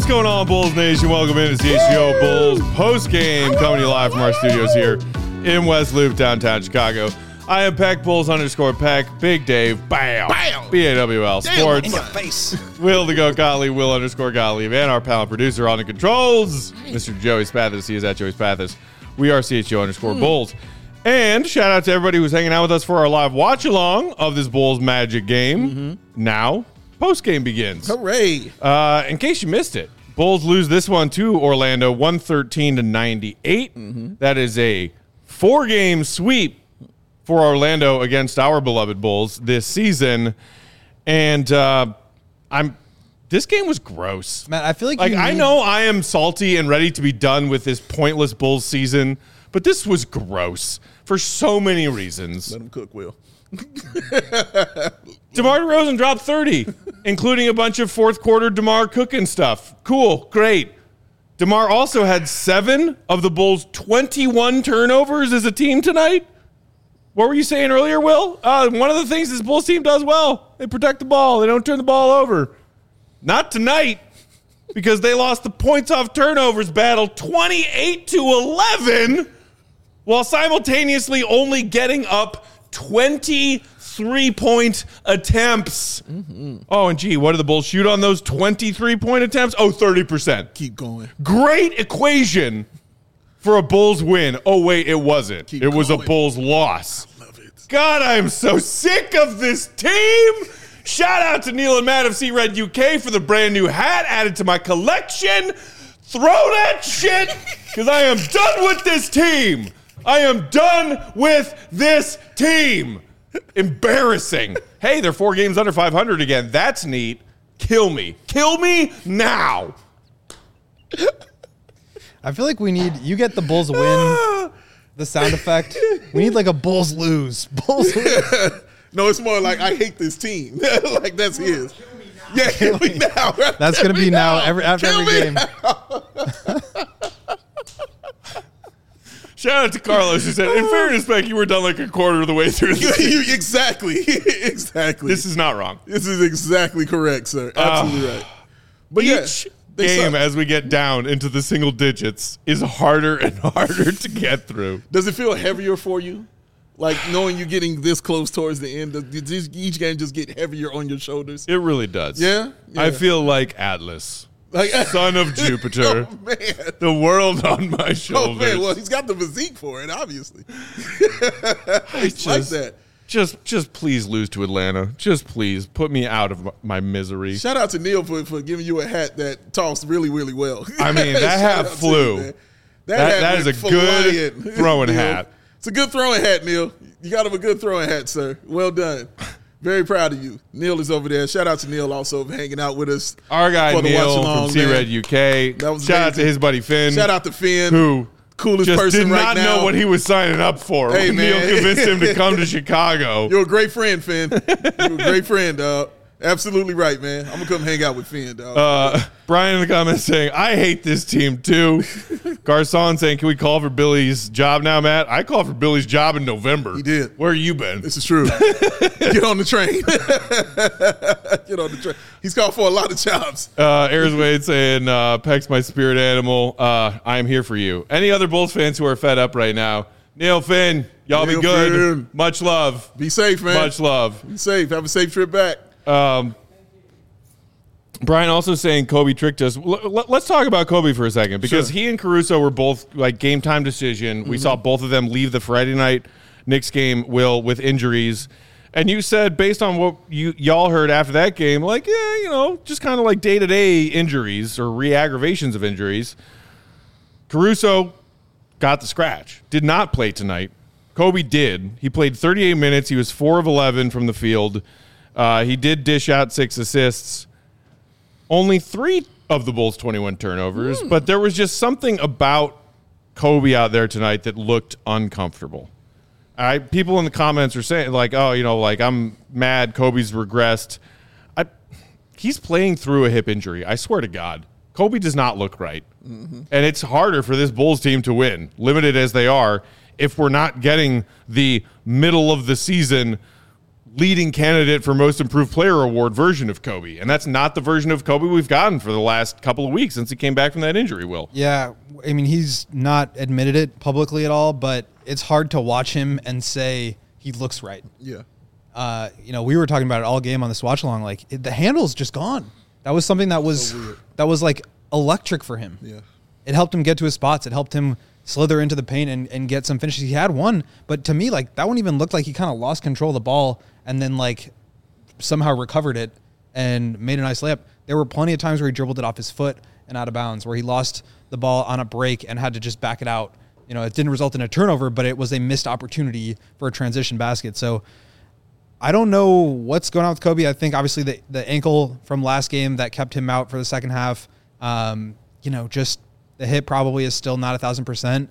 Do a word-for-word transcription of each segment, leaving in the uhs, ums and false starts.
What's going on, Bulls Nation? Welcome into C H G O Bulls post-game, coming to you live from our studios here in West Loop, downtown Chicago. I am Peck, Bulls underscore Peck, Big Dave, bam, bam. B A W L Sports. In your face. Will to go Gottlieb, Will underscore Gottlieb, and our pal and producer on the controls, Mister Joey Spathis. He is at Joey Spathis. We are C H G O underscore mm. Bulls. And shout out to everybody who's hanging out with us for our live watch along of this Bulls Magic game. Mm-hmm. Now, post game begins. Hooray! Uh, in case you missed it, Bulls lose this one to Orlando, one thirteen to ninety-eight. Mm-hmm. That is a four game sweep for Orlando against our beloved Bulls this season. And uh, I'm. This game was gross. Man, I feel like like you I need- know I am salty and ready to be done with this pointless Bulls season, but this was gross for so many reasons. Let him cook, Will. DeMar DeRozan dropped thirty, including a bunch of fourth quarter DeMar cooking stuff. Cool, great. DeMar also had seven of the Bulls' twenty-one turnovers as a team tonight. What were you saying earlier, Will? Uh, one of the things this Bulls team does well, they protect the ball. They don't turn the ball over. Not tonight, because they lost the points off turnovers battle twenty-eight to eleven, while simultaneously only getting up twenty-three point attempts. Mm-hmm. Oh, and gee, what did the Bulls shoot on those twenty-three point attempts? Oh, thirty percent. Keep going. Great equation for a Bulls win. Oh, wait, it wasn't. Keep it was going. a Bulls loss. I love it. God, I'm so sick of this team. Shout out to Neil and Matt of C-Red U K for the brand new hat added to my collection. Throw that shit, because I am done with this team. I am done with this team. Embarrassing. Hey, they're four games under five hundred again. That's neat. Kill me. Kill me now. I feel like we need, you get the Bulls win, the sound effect. We need like a Bulls lose. Bulls lose. No, it's more like I hate this team. Like that's his. Yeah, kill me now. That's going to be now, now every, after kill every game. Shout out to Carlos who said, in fairness, Beck, you were done like a quarter of the way through the you, exactly. Exactly. This is not wrong. This is exactly correct, sir. Absolutely uh, right. But each yeah, game suck. as we get down into the single digits is harder and harder to get through. Does it feel heavier for you? Like knowing you're getting this close towards the end, does each game just get heavier on your shoulders? It really does. Yeah? yeah. I feel like Atlas, like, son of Jupiter, oh, man. the world on my shoulders. Oh, man. Well, he's got the physique for it, obviously. I just, like that. Just, just please lose to Atlanta. Just please put me out of my misery. Shout out to Neil for, for giving you a hat that tossed really, really well. I mean, that hat flew. You, that that, hat that is a flying. good throwing Neil. hat. It's a good throwing hat, Neil. You got him a good throwing hat, sir. Well done. Very proud of you. Neil is over there. Shout out to Neil also for hanging out with us. Our guy for the Neil watch along, from C-Red U K. That was Shout amazing. out to his buddy Finn. Shout out to Finn. Who coolest just person did right not now. know what he was signing up for. Hey, when Neil man. convinced him to come to Chicago. You're a great friend, Finn. You're a great friend, dog. Absolutely right, man. I'm going to come hang out with Finn, dog. Uh, Brian in the comments saying, I hate this team too. Garcon saying, can we call for Billy's job now, Matt? I called for Billy's job in November. He did. Where you been? This is true. Get on the train. Get on the train. He's called for a lot of jobs. Uh, Ayers Wade saying, uh, Peck's my spirit animal. Uh, I am here for you. Any other Bulls fans who are fed up right now? Neil, Finn, y'all Neil, be good. Finn. Much love. Be safe, man. Much love. Be safe. Have a safe trip back. Um, Brian also saying Kobe tricked us. L- l- let's talk about Kobe for a second, because Sure. he and Caruso were both like game time decision. Mm-hmm. We saw both of them leave the Friday night Knicks game, Will, with injuries. And you said, based on what you y'all heard after that game, like, yeah, you know, just kind of like day-to-day injuries or re-aggravations of injuries. Caruso got the scratch, did not play tonight. Kobe did. He played thirty-eight minutes. He was four of eleven from the field. Uh, he did dish out six assists. Only three of the Bulls' twenty-one turnovers, mm. but there was just something about Kobe out there tonight that looked uncomfortable. All right, people in the comments are saying, like, oh, you know, like, I'm mad Kobe's regressed. I, he's playing through a hip injury. I swear to God. Kobe does not look right. Mm-hmm. And it's harder for this Bulls team to win, limited as they are, if we're not getting the middle of the season leading candidate for most improved player award version of Kobe. And that's not the version of Kobe we've gotten for the last couple of weeks since he came back from that injury, Will. Yeah, I mean, he's not admitted it publicly at all, but it's hard to watch him and say he looks right. Yeah. Uh, you know, we were talking about it all game on this watch along. Like it, the handle's just gone. That was something that was So that was like electric for him. Yeah. It helped him get to his spots. It helped him slither into the paint and, and get some finishes. He had one, but to me, like that one even looked like he kind of lost control of the ball and then like somehow recovered it and made a nice layup. There were plenty of times where he dribbled it off his foot and out of bounds, where he lost the ball on a break and had to just back it out. You know, it didn't result in a turnover, but it was a missed opportunity for a transition basket. So I don't know what's going on with Kobe. I think obviously the, the ankle from last game that kept him out for the second half, um, you know, just the hit probably is still not a thousand percent,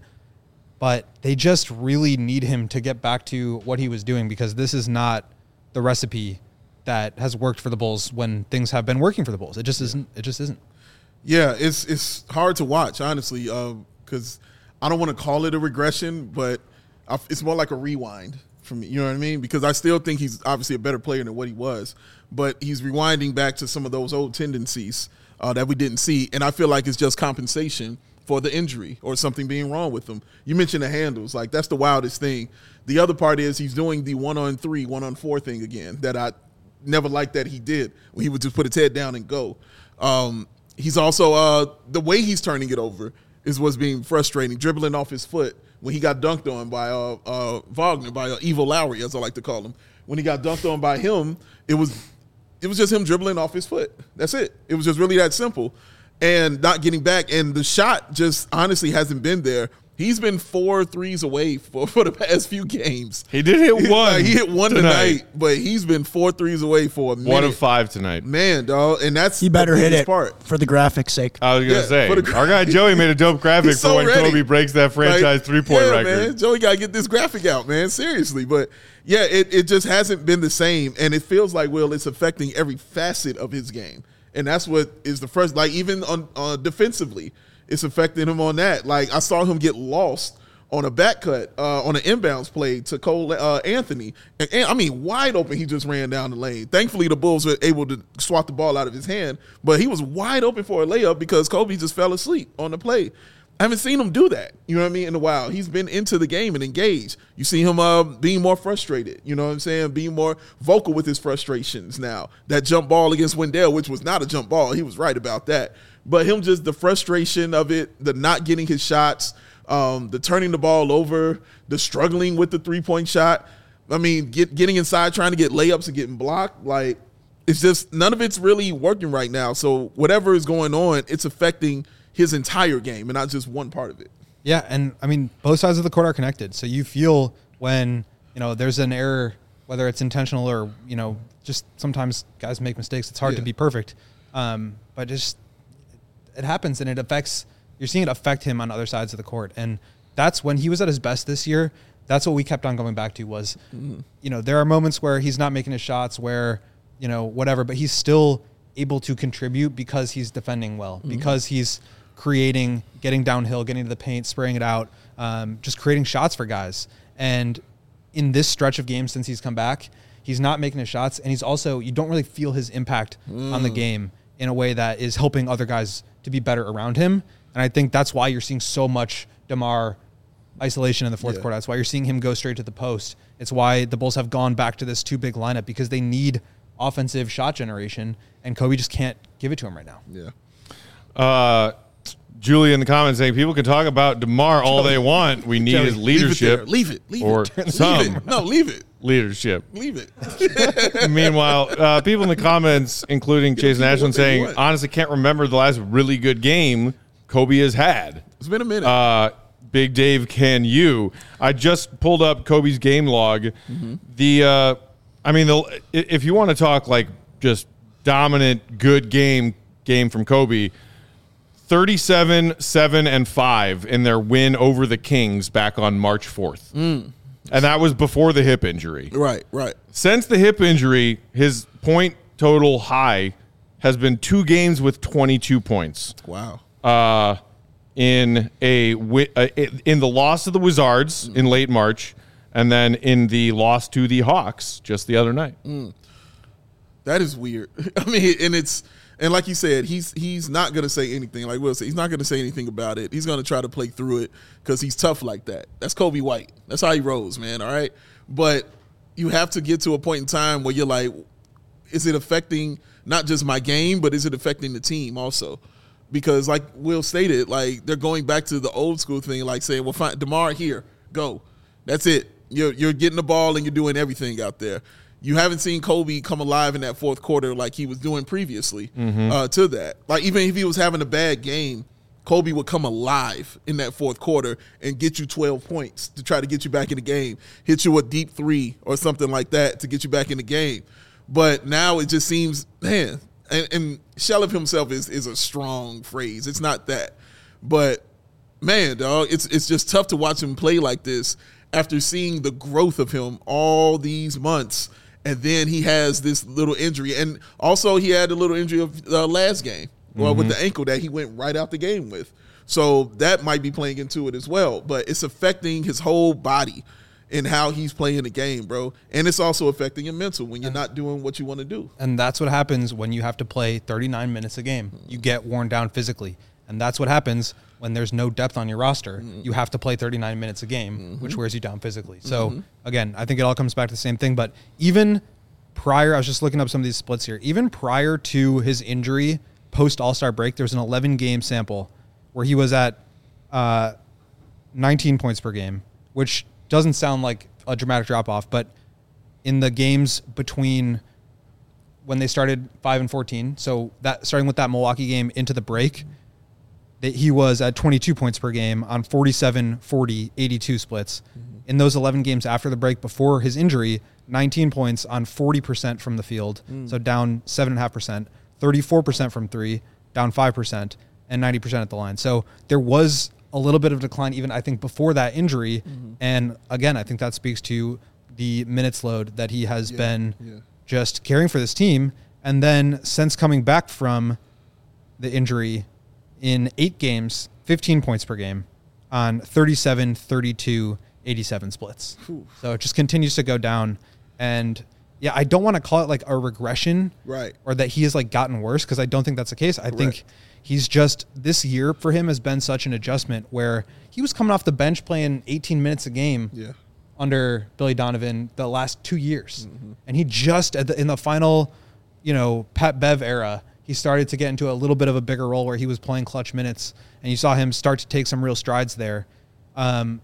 but they just really need him to get back to what he was doing, because this is not the recipe that has worked for the Bulls when things have been working for the Bulls. It just isn't. It just isn't. Yeah, it's it's hard to watch, honestly, because uh, I don't want to call it a regression, but I, it's more like a rewind for me. You know what I mean? Because I still think he's obviously a better player than what he was, but he's rewinding back to some of those old tendencies uh, that we didn't see, and I feel like it's just compensation for the injury or something being wrong with him. You mentioned the handles. Like, that's the wildest thing. The other part is he's doing the one-on-three, one-on-four thing again that I never liked that he did, when he would just put his head down and go. Um, he's also uh, – the way he's turning it over is what's being frustrating, dribbling off his foot when he got dunked on by uh, uh, Wagner, by uh, Evil Lowry, as I like to call him. When he got dunked on by him, it was it was just him dribbling off his foot. That's it. It was just really that simple. And not getting back. And the shot just honestly hasn't been there. He's been four threes away for, for the past few games. He did hit one. Like, he hit one tonight. tonight, but he's been four threes away for a minute. One of five tonight. Man, dog. And that's He better the hit biggest it part. for the graphics' sake. I was going to Yeah, say, for the- our guy Joey made a dope graphic He's for so when ready. Kobe breaks that franchise Like, three-point yeah, record. Man, Joey got to get this graphic out, man. Seriously. But, yeah, it, it just hasn't been the same. And it feels like, Will, it's affecting every facet of his game. And that's what is the first, like, even on uh, defensively, it's affecting him on that. Like, I saw him get lost on a back cut, uh, on an inbounds play to Cole uh, Anthony. And, and, I mean, wide open, he just ran down the lane. Thankfully, the Bulls were able to swat the ball out of his hand, but he was wide open for a layup because Kobe just fell asleep on the play. I haven't seen him do that, you know what I mean, in a while. He's been into the game and engaged. You see him uh, being more frustrated, you know what I'm saying, being more vocal with his frustrations now. That jump ball against Wendell, which was not a jump ball, he was right about that. But him just, the frustration of it, the not getting his shots, Um, the turning the ball over, the struggling with the three-point shot. I mean, get, getting inside, trying to get layups and getting blocked. Like, it's just none of it's really working right now. So whatever is going on, it's affecting his entire game and not just one part of it. Yeah, and I mean, both sides of the court are connected. So you feel when, you know, there's an error, whether it's intentional or, you know, just sometimes guys make mistakes. It's hard Yeah. to be perfect. Um, but just it happens, and it affects – you're seeing it affect him on other sides of the court. And that's when he was at his best this year. That's what we kept on going back to was, mm-hmm. you know, there are moments where he's not making his shots, where, you know, whatever, but he's still able to contribute because he's defending well, mm-hmm. because he's – creating, getting downhill, getting to the paint, spraying it out, um, just creating shots for guys. And in this stretch of games since he's come back, he's not making his shots, and he's also, you don't really feel his impact mm. on the game in a way that is helping other guys to be better around him. And I think that's why you're seeing so much DeMar isolation in the fourth yeah. quarter. That's why you're seeing him go straight to the post. It's why the Bulls have gone back to this two big lineup, because they need offensive shot generation, and Kobe just can't give it to him right now. Yeah. Uh, Julie in the comments saying people can talk about DeMar all they want. We need Joey, his leadership. Leave it. Leave it. Leave or it. some leave it. No, leave it. leadership. Leave it. Meanwhile, uh, people in the comments, including Jason Ashland, saying, want. honestly, can't remember the last really good game Kobe has had. It's been a minute. Uh, Big Dave, can you? I just pulled up Kobe's game log. Mm-hmm. The, uh, I mean, the, if you want to talk like just dominant, good game game from Kobe, thirty-seven, seven, and five in their win over the Kings back on March fourth. Mm. And that was before the hip injury. Right, right. Since the hip injury, his point total high has been two games with twenty-two points. Wow. Uh, in a uh, in the loss of the Wizards mm. in late March, and then in the loss to the Hawks just the other night. Mm. That is weird. I mean, and it's and like you said, he's he's not going to say anything. Like Will said, he's not going to say anything about it. He's going to try to play through it because he's tough like that. That's Kobe White. That's how he rolls, man. All right, but you have to get to a point in time where you're like, is it affecting not just my game, but is it affecting the team also? Because like Will stated, like they're going back to the old school thing, like saying, well, fine, DeMar, here, go. That's it. You're you're getting the ball and you're doing everything out there. You haven't seen Kobe come alive in that fourth quarter like he was doing previously mm-hmm. uh, to that. Like even if he was having a bad game, Kobe would come alive in that fourth quarter and get you twelve points to try to get you back in the game, hit you a deep three or something like that to get you back in the game. But now it just seems, man, and, and shell of himself is is a strong phrase. It's not that. But, man, dog, it's it's just tough to watch him play like this after seeing the growth of him all these months. And then he has this little injury. And also he had a little injury of the uh, last game well, mm-hmm. with the ankle that he went right out the game with. So that might be playing into it as well. But it's affecting his whole body and how he's playing the game, bro. And it's also affecting your mental when you're and, not doing what you want to do. And that's what happens when you have to play thirty-nine minutes a game. You get worn down physically. And that's what happens when there's no depth on your roster. Mm-hmm. You have to play thirty-nine minutes a game, mm-hmm. which wears you down physically. So, mm-hmm. again, I think it all comes back to the same thing. But even prior, I was just looking up some of these splits here. Even prior to his injury, post All-Star break, there was an eleven-game sample where he was at uh, nineteen points per game, which doesn't sound like a dramatic drop-off. But in the games between when they started five and fourteen, so that starting with that Milwaukee game into the break, that he was at twenty-two points per game on forty-seven, forty, eighty-two splits. Mm-hmm. In those eleven games after the break before his injury, nineteen points on forty percent from the field, mm. so down seven point five percent, thirty-four percent from three, down five percent, and ninety percent at the line. So there was a little bit of decline even, I think, before that injury. Mm-hmm. And again, I think that speaks to the minutes load that he has yeah, been yeah. just carrying for this team. And then since coming back from the injury, in eight games, fifteen points per game on thirty-seven, thirty-two, eighty-seven splits. Ooh. So it just continues to go down. And yeah, I don't want to call it like a regression, right? Or that he has like gotten worse, because I don't think that's the case. I Correct. think he's just, this year for him has been such an adjustment where he was coming off the bench playing eighteen minutes a game yeah. under Billy Donovan the last two years. Mm-hmm. And he just, at the, in the final, you know, Pat Bev era, he started to get into a little bit of a bigger role where he was playing clutch minutes, and you saw him start to take some real strides there. Um,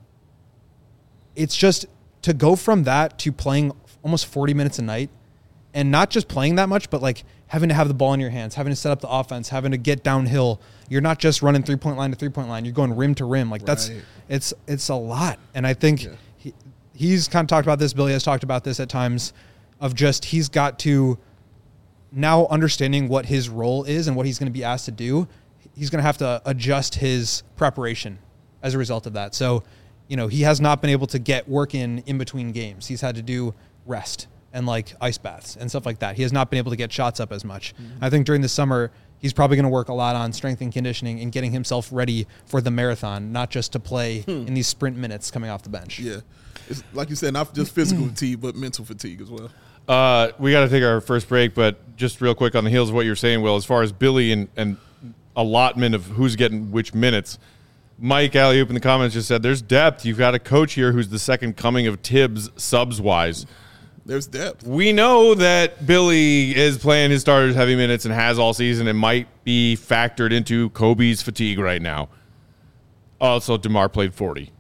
it's just to go from that to playing almost forty minutes a night, and not just playing that much, but like having to have the ball in your hands, having to set up the offense, having to get downhill. You're not just running three-point line to three-point line. You're going rim to rim. Like right. that's it's it's a lot. And I think yeah. he, he's kind of talked about this. Billy has talked about this at times of just he's got to – now understanding what his role is and what he's going to be asked to do, he's going to have to adjust his preparation as a result of that. So, you know, he has not been able to get work in in between games. He's had to do rest and like ice baths and stuff like that. He has not been able to get shots up as much. Mm-hmm. I think during the summer, he's probably going to work a lot on strength and conditioning and getting himself ready for the marathon, not just to play hmm. in these sprint minutes coming off the bench. Yeah. It's, like you said, not just physical fatigue, but mental fatigue as well. Uh, we got to take our first break, but just real quick on the heels of what you're saying, Will, as far as Billy and, and allotment of who's getting which minutes, Mike Alley-oop in the comments just said there's depth. You've got a coach here who's the second coming of Tibbs subs-wise. There's depth. We know that Billy is playing his starters heavy minutes and has all season and might be factored into Kobe's fatigue right now. Also, DeMar played forty.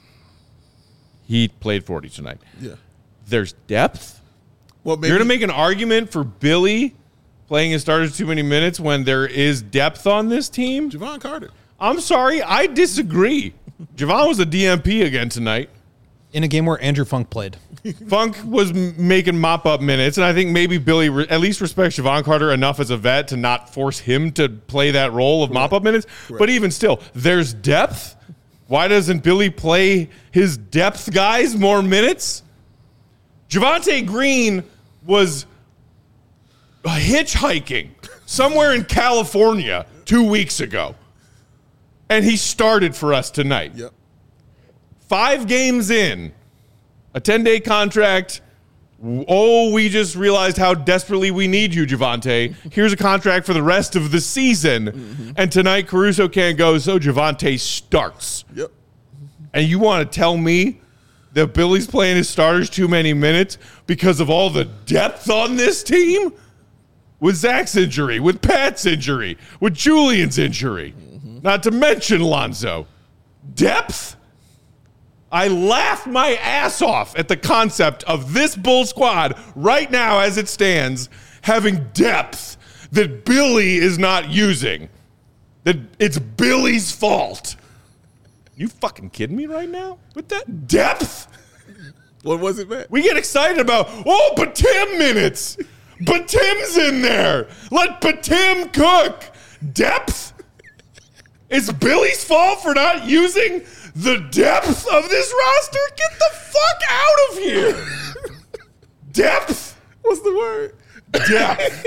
He played forty tonight. Yeah. There's depth. Well, maybe. You're going to make an argument for Billy playing his starters too many minutes when there is depth on this team? Javon Carter. I'm sorry. I disagree. Javon was a D M P again tonight. In a game where Andrew Funk played. Funk was m- making mop-up minutes, and I think maybe Billy re- at least respects Javon Carter enough as a vet to not force him to play that role of Correct. mop-up minutes. Correct. But even still, there's depth. Why doesn't Billy play his depth guys more minutes? Javonte Green was hitchhiking somewhere in California two weeks ago, and he started for us tonight. Yep. Five games in, A ten-day contract. Oh, we just realized how desperately we need you, Javonte. Here's a contract for the rest of the season. Mm-hmm. And tonight, Caruso can't go, so Javonte starts. Yep. And you want to tell me that Billy's playing his starters too many minutes because of all the depth on this team? With Zach's injury, with Pat's injury, with Julian's injury, mm-hmm. not to mention Lonzo. Depth? I laugh my ass off at the concept of this Bull squad right now as it stands having depth that Billy is not using. That it's Billy's fault. You fucking kidding me right now with that depth? What was it, Matt? We get excited about, oh, Batim minutes. Batim's in there. Let Batim cook. Depth? It's Billy's fault for not using the depth of this roster? Get the fuck out of here. Depth? What's the word? Depth.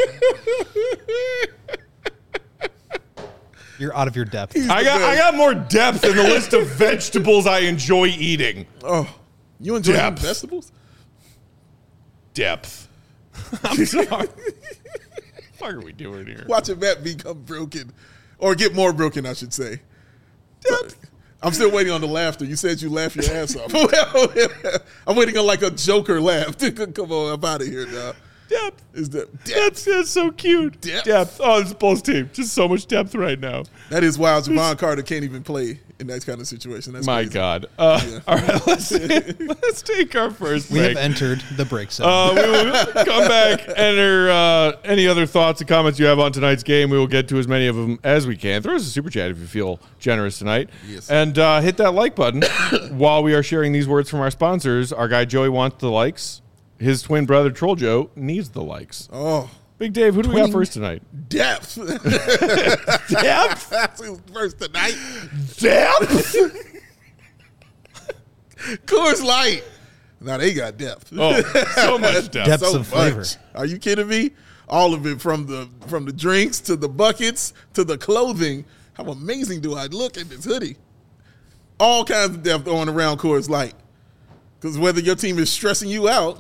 You're out of your depth. I got I got more depth in the list of vegetables I enjoy eating. Oh, you enjoy eating Depth. vegetables? Depth. I'm sorry. What the fuck are we doing here? Watching Matt become broken. Or get more broken, I should say. Depth. I'm still waiting on the laughter. You said you laugh your ass off. I'm waiting on like a Joker laugh. Come on, I'm out of here, dog. Depth. Is that depth? That's, that's so cute. Depth. Depth. Oh, this Bulls team. Just so much depth right now. That is wild. Javon Carter can't even play in that kind of situation. That's My crazy. God. Uh, Yeah. All right, let's, let's take our first We break. have entered the break zone. Uh, we will come back, enter uh, any other thoughts and comments you have on tonight's game. We will get to as many of them as we can. Throw us a super chat if you feel generous tonight. Yes. And uh, hit that like button while we are sharing these words from our sponsors. Our guy Joey wants the likes. His twin brother Troll Joe needs the likes. Oh, Big Dave, who do we got Twin- first tonight? depth. Depth? That's who's first tonight. Depth? Coors Light. Now they got depth. Oh, so much depth. Depth. so of flavor. much. Are you kidding me? All of it, from the from the drinks to the buckets to the clothing. How amazing do I look in this hoodie? All kinds of depth on around Coors Light. Because whether your team is stressing you out,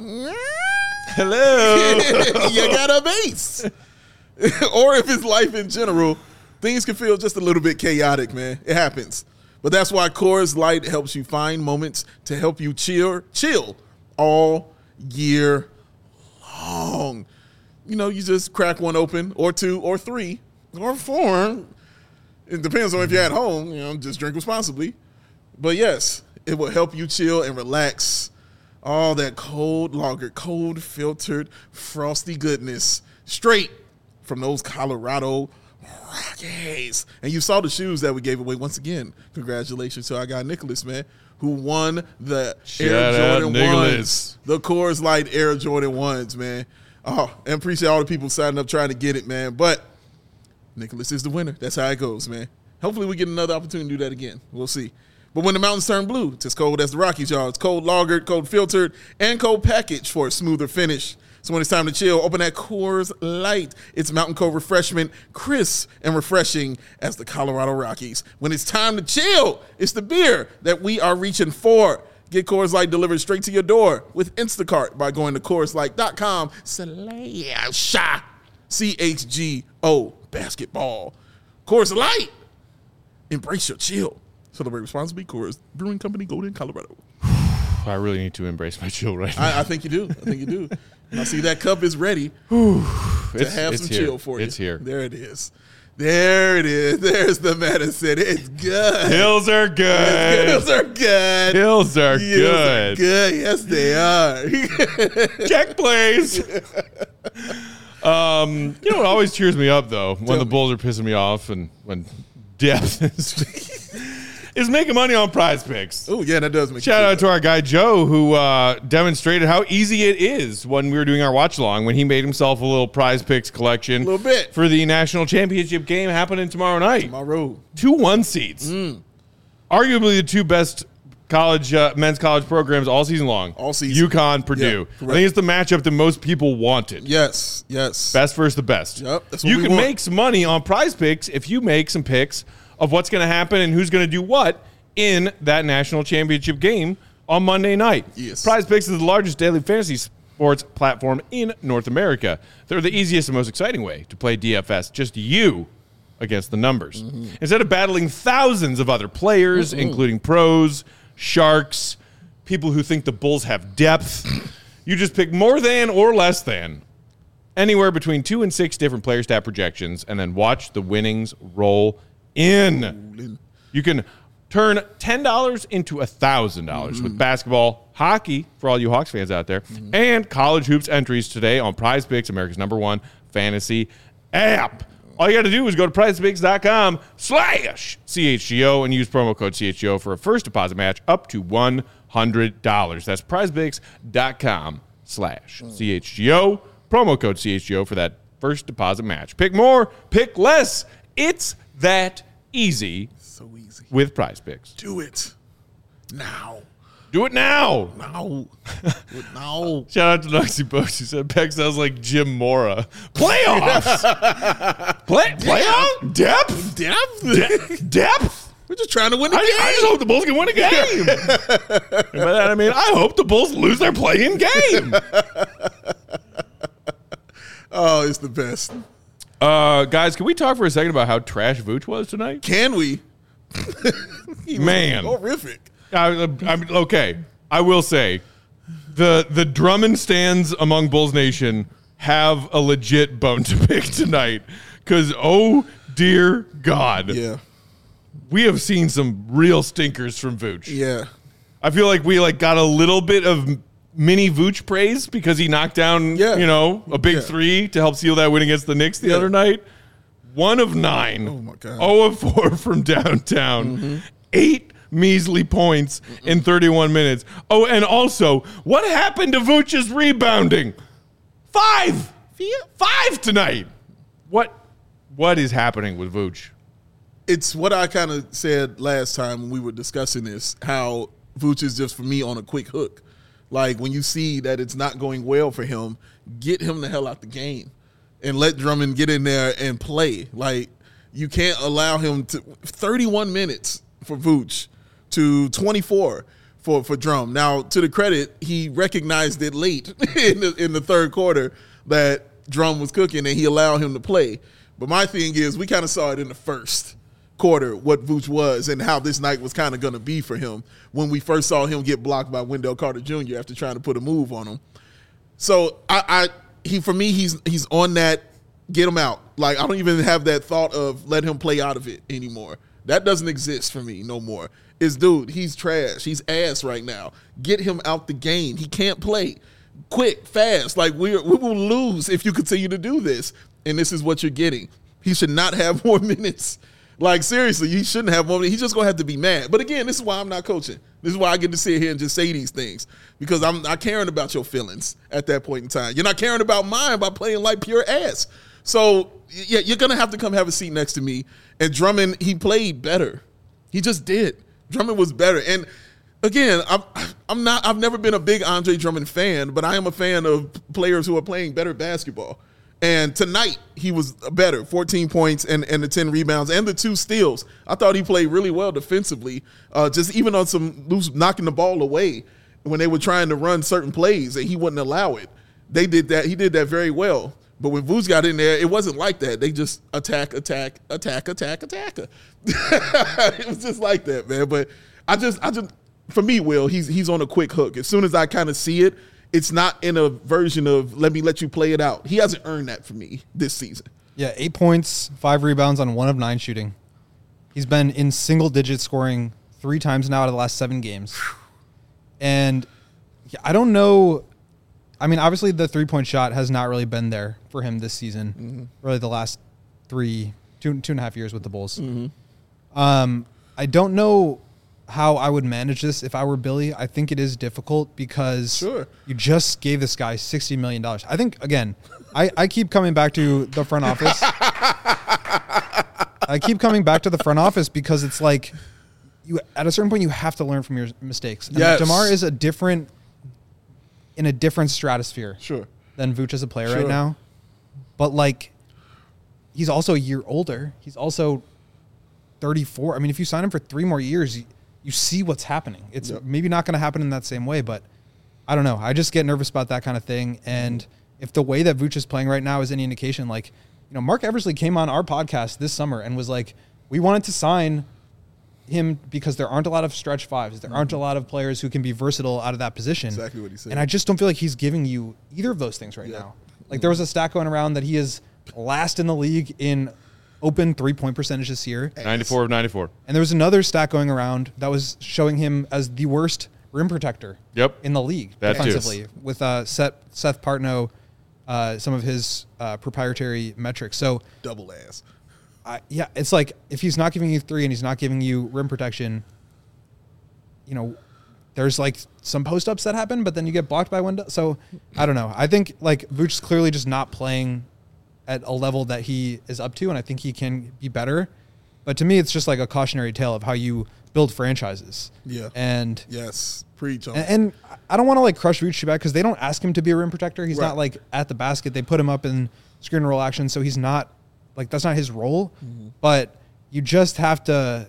Hello. you got a base. Or if it's life in general, things can feel just a little bit chaotic, man. It happens. But that's why Coors Light helps you find moments to help you chill, chill all year long. You know, you just crack one open, or two, or three, or four. It depends on if you're at home. You know, just drink responsibly. But yes, it will help you chill and relax. All that cold lager, cold filtered, frosty goodness, straight from those Colorado Rockies. And you saw the shoes that we gave away once again. Congratulations to our guy Nicholas, man, who won the Shout Air out, Jordan Nicholas. ones, the Coors Light Air Jordan ones, man. Oh, and appreciate all the people signing up trying to get it, man. But Nicholas is the winner. That's how it goes, man. Hopefully we get another opportunity to do that again. We'll see. But when the mountains turn blue, it's as cold as the Rockies, y'all. It's cold lagered, cold filtered, and cold packaged for a smoother finish. So when it's time to chill, open that Coors Light. It's mountain cold refreshment, crisp and refreshing as the Colorado Rockies. When it's time to chill, it's the beer that we are reaching for. Get Coors Light delivered straight to your door with Instacart by going to Coors Light dot com slash C H G O basketball. Coors Light. Embrace your chill. Celebrate responsibly. Coors Brewing Company, Golden, Colorado. I really need to embrace my chill right now. I, I think you do. I think you do. And I see that cup is ready to It's- have it's some here. chill for you. It's here. There it is. There it is. There's the medicine. It's good. Hills are good. Hills are good. Hills are Hills are good. good. Yes, they are. Check, please. um, you know what always cheers me up, though, when Tell the me. Bulls are pissing me off and when depth is, is making money on prize picks. Oh, yeah, that does make Shout you out to our guy Joe, who uh, demonstrated how easy it is when we were doing our watch along, when he made himself a little prize picks collection Little bit. for the national championship game happening tomorrow night. my road. Two one seats. Mm. Arguably the two best college uh, men's college programs all season long. All season. UConn, Purdue. Yeah, I correct. think it's the matchup that most people wanted. Yes, yes. Best versus the best. Yep, that's what you we can want. make some money on prize picks if you make some picks of what's going to happen and who's going to do what in that national championship game on Monday night. Yes. Prize Picks is the largest daily fantasy sports platform in North America. They're the easiest and most exciting way to play D F S. Just you against the numbers. Mm-hmm. Instead of battling thousands of other players, mm-hmm. including pros, sharks, people who think the Bulls have depth, you just pick more than or less than anywhere between two and six different player stat projections and then watch the winnings roll in. You can turn ten dollars into one thousand dollars mm-hmm. with basketball, hockey, for all you Hawks fans out there, mm-hmm. and college hoops entries today on Prize Picks, America's number one fantasy app. All you got to do is go to prizepicks.com slash CHGO and use promo code C H G O for a first deposit match up to one hundred dollars. That's prizepicks.com slash CHGO. Promo code C H G O for that first deposit match. Pick more, pick less. It's that easy. So easy. With Prize Picks. Do it now. Do it now. No. Do it now. Shout out to Nuxie Bucks. He said Peck sounds like Jim Mora. Playoffs. Play, playoff? Depth? Depth? De- depth? We're just trying to win a I, game. I just hope the Bulls can win a game. And by that I mean, I hope the Bulls lose their play-in game. Oh, it's the best. Uh, guys, can we talk for a second about how trash Vooch was tonight? Can we? Man. Horrific. I, I, okay, I will say the the Drummond stands among Bulls Nation have a legit bone to pick tonight because, oh, dear God. Yeah. We have seen some real stinkers from Vooch. Yeah. I feel like we like got a little bit of mini Vooch praise because he knocked down, yeah. you know, a big yeah. three to help seal that win against the Knicks the yeah. other night. One of nine. Oh, my God. zero of four from downtown. Mm-hmm. Eight measly points Mm-mm. in thirty-one minutes. Oh, and also, what happened to Vooch's rebounding? Five. Five tonight. What? What is happening with Vooch? It's what I kind of said last time when we were discussing this, how Vooch is just, for me, on a quick hook. Like, when you see that it's not going well for him, get him the hell out the game and let Drummond get in there and play. Like, you can't allow him to – thirty-one minutes for Vooch to twenty-four for, for Drum. Now, to the credit, he recognized it late in the, in the third quarter that Drum was cooking, and he allowed him to play. But my thing is, we kind of saw it in the first quarter, what Vooch was and how this night was kind of going to be for him when we first saw him get blocked by Wendell Carter Junior after trying to put a move on him. So I, I he for me, he's he's on that get him out. Like, I don't even have that thought of let him play out of it anymore. That doesn't exist for me no more. Is dude, he's trash. He's ass right now. Get him out the game. He can't play. Quick, fast. Like, we we will lose if you continue to do this. And this is what you're getting. He should not have more minutes. Like, seriously, he shouldn't have more minutes. He's just going to have to be mad. But again, this is why I'm not coaching. This is why I get to sit here and just say these things. Because I'm not caring about your feelings at that point in time. You're not caring about mine by playing like pure ass. So, yeah, you're going to have to come have a seat next to me. And Drummond, he played better. He just did. Drummond was better. And again, I'm, I'm not, I've never been a big Andre Drummond fan, but I am a fan of players who are playing better basketball. And tonight, he was better, fourteen points and, and the ten rebounds and the two steals. I thought he played really well defensively, uh, just even on some loose knocking the ball away when they were trying to run certain plays, and he wouldn't allow it. They did that. He did that very well. But when Vooch got in there, it wasn't like that. They just attack, attack, attack, attack, attack. It was just like that, man. But I just, I just, for me, Will, he's he's on a quick hook. As soon as I kind of see it, it's not in a version of let me let you play it out. He hasn't earned that for me this season. Yeah, eight points, five rebounds on one of nine shooting. He's been in single digit scoring three times now out of the last seven games. And I don't know. I mean, obviously the three-point shot has not really been there for him this season. Mm-hmm. Really the last three, two, two and a half years with the Bulls. Mm-hmm. Um, I don't know how I would manage this if I were Billy. I think it is difficult because sure. you just gave this guy sixty million dollars. I think, again, I, I keep coming back to the front office. I keep coming back to the front office because it's like you at a certain point you have to learn from your mistakes. And yes. DeMar is a different in a different stratosphere sure. than Vooch as a player sure. right now. But like he's also a year older. He's also thirty-four. I mean, if you sign him for three more years, you, you see what's happening. It's Yep. maybe not going to happen in that same way, but I don't know. I just get nervous about that kind of thing. And if the way that Vooch is playing right now is any indication, like, you know, Mark Eversley came on our podcast this summer and was like, we wanted to sign him because there aren't a lot of stretch fives. There aren't a lot of players who can be versatile out of that position. Exactly what he said. And I just don't feel like he's giving you either of those things right Yeah. now. Like there was a stat going around that he is last in the league in open three-point percentage this year. ninety-four of ninety-four. And there was another stat going around that was showing him as the worst rim protector Yep. in the league That too. defensively with uh, Seth, Seth Partnow, uh, some of his uh, proprietary metrics. So, Double ass. I, yeah, it's like if he's not giving you three and he's not giving you rim protection, you know, there's like some post-ups that happen, but then you get blocked by one. So, I don't know. I think like Vooch is clearly just not playing at a level that he is up to, and I think he can be better. But to me, it's just like a cautionary tale of how you build franchises. Yeah. And Yes. Preach on. and, and I don't want to like crush Vooch too bad because they don't ask him to be a rim protector. He's Right. not like at the basket. They put him up in screen and roll action, so he's not like that's not his role. Mm-hmm. But you just have to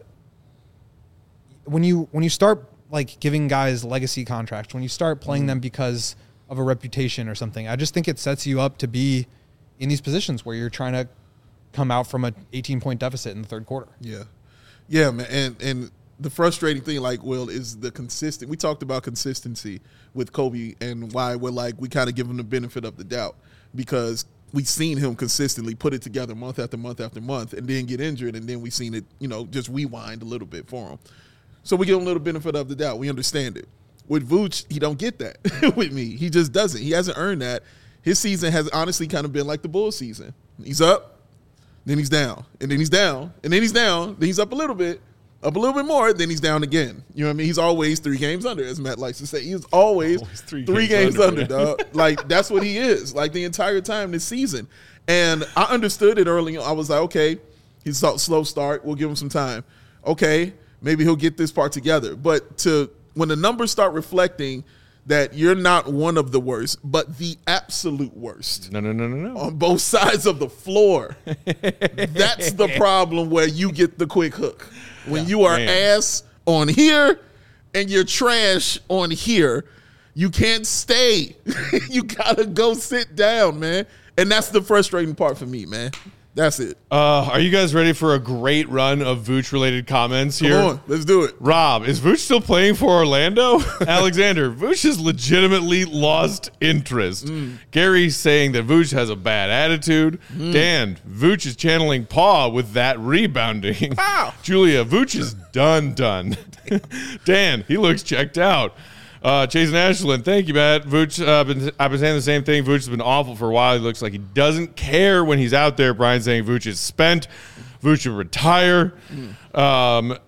when you when you start like giving guys legacy contracts, when you start playing Mm-hmm. them because of a reputation or something, I just think it sets you up to be in these positions where you're trying to come out from an eighteen point deficit in the third quarter. Yeah. Yeah, man. And and the frustrating thing, like, Will, is the consistent. We talked about consistency with Kobe and why we're like, we kind of give him the benefit of the doubt because we've seen him consistently put it together month after month after month and then get injured. And then we seen it, you know, just rewind a little bit for him. So we give him a little benefit of the doubt. We understand it. With Vooch, he don't get that with me. He just doesn't. He hasn't earned that. His season has honestly kind of been like the Bulls season. He's up, then he's down, and then he's down, and then he's down, then he's up a little bit, up a little bit more, then he's down again. You know what I mean? He's always three games under, as Matt likes to say. He's always, Always three three, games games, under, under, dog. Like, that's what he is, like, the entire time this season. And I understood it early on. I was like, okay, he's a slow start. We'll give him some time. Okay, maybe he'll get this part together. But to when the numbers start reflecting that you're not one of the worst, but the absolute worst No, no, no, no, no. on both sides of the floor, that's the problem where you get the quick hook. When you are Man. ass on here and you're trash on here, you can't stay. You gotta go sit down, man. And that's the frustrating part for me, man. That's it. Uh, are you guys ready for a great run of Vooch-related comments here? Come on, let's do it. Rob, is Vooch still playing for Orlando? Alexander, Vooch has legitimately lost interest. Mm. Gary's saying that Vooch has a bad attitude. Mm. Dan, Vooch is channeling Paw with that rebounding. Wow. Julia, Vooch is done, done. Dan, he looks checked out. Uh, Chase and Ashland, thank you, Matt. Vooch, uh, been, I've been saying the same thing. Vooch has been awful for a while. He looks like he doesn't care when he's out there. Brian saying Vooch is spent. Vooch should retire. Um,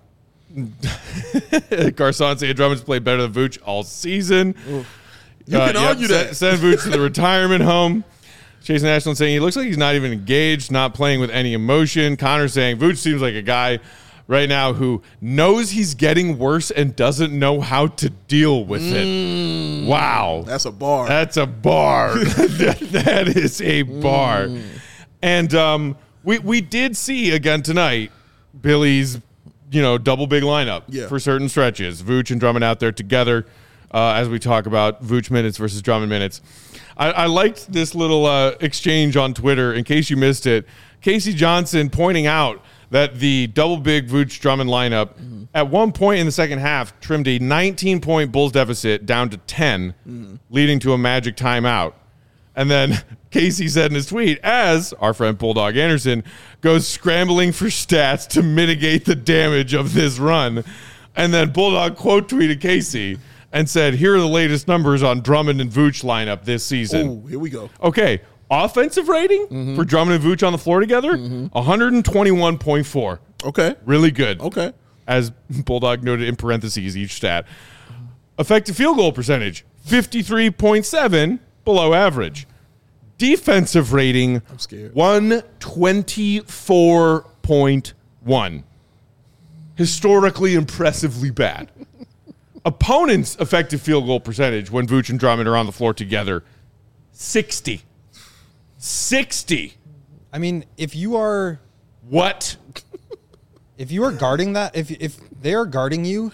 Garcon saying Drummond's played better than Vooch all season. You can argue send, that. Send Vooch to the retirement home. Chase and Ashland saying he looks like he's not even engaged, not playing with any emotion. Connor saying Vooch seems like a guy right now who knows he's getting worse and doesn't know how to deal with it. Wow. That's a bar. That's a bar. that, that is a bar. And um, we we did see again tonight Billy's, you know, double big lineup Yeah. for certain stretches. Vooch and Drummond out there together uh, as we talk about Vooch minutes versus Drummond minutes. I, I liked this little uh, exchange on Twitter. In case you missed it, Casey Johnson pointing out that the double big Vooch Drummond lineup mm-hmm. at one point in the second half trimmed a nineteen point Bulls deficit down to ten, mm-hmm. leading to a Magic timeout. And then Casey said in his tweet, as our friend Bulldog Anderson goes scrambling for stats to mitigate the damage of this run. And then Bulldog quote tweeted Casey and said, here are the latest numbers on Drummond and Vooch lineup this season. Oh, here we go. Okay. Offensive rating mm-hmm. for Drummond and Vooch on the floor together, mm-hmm. one twenty-one point four. Okay. Really good. Okay. As Bulldog noted in parentheses each stat. Effective field goal percentage, fifty-three point seven, below average. Defensive rating, I'm scared. one twenty-four point one. Historically impressively bad. Opponents' effective field goal percentage when Vooch and Drummond are on the floor together, sixty. sixty. I mean, if you are What? if you are guarding that, if if they are guarding you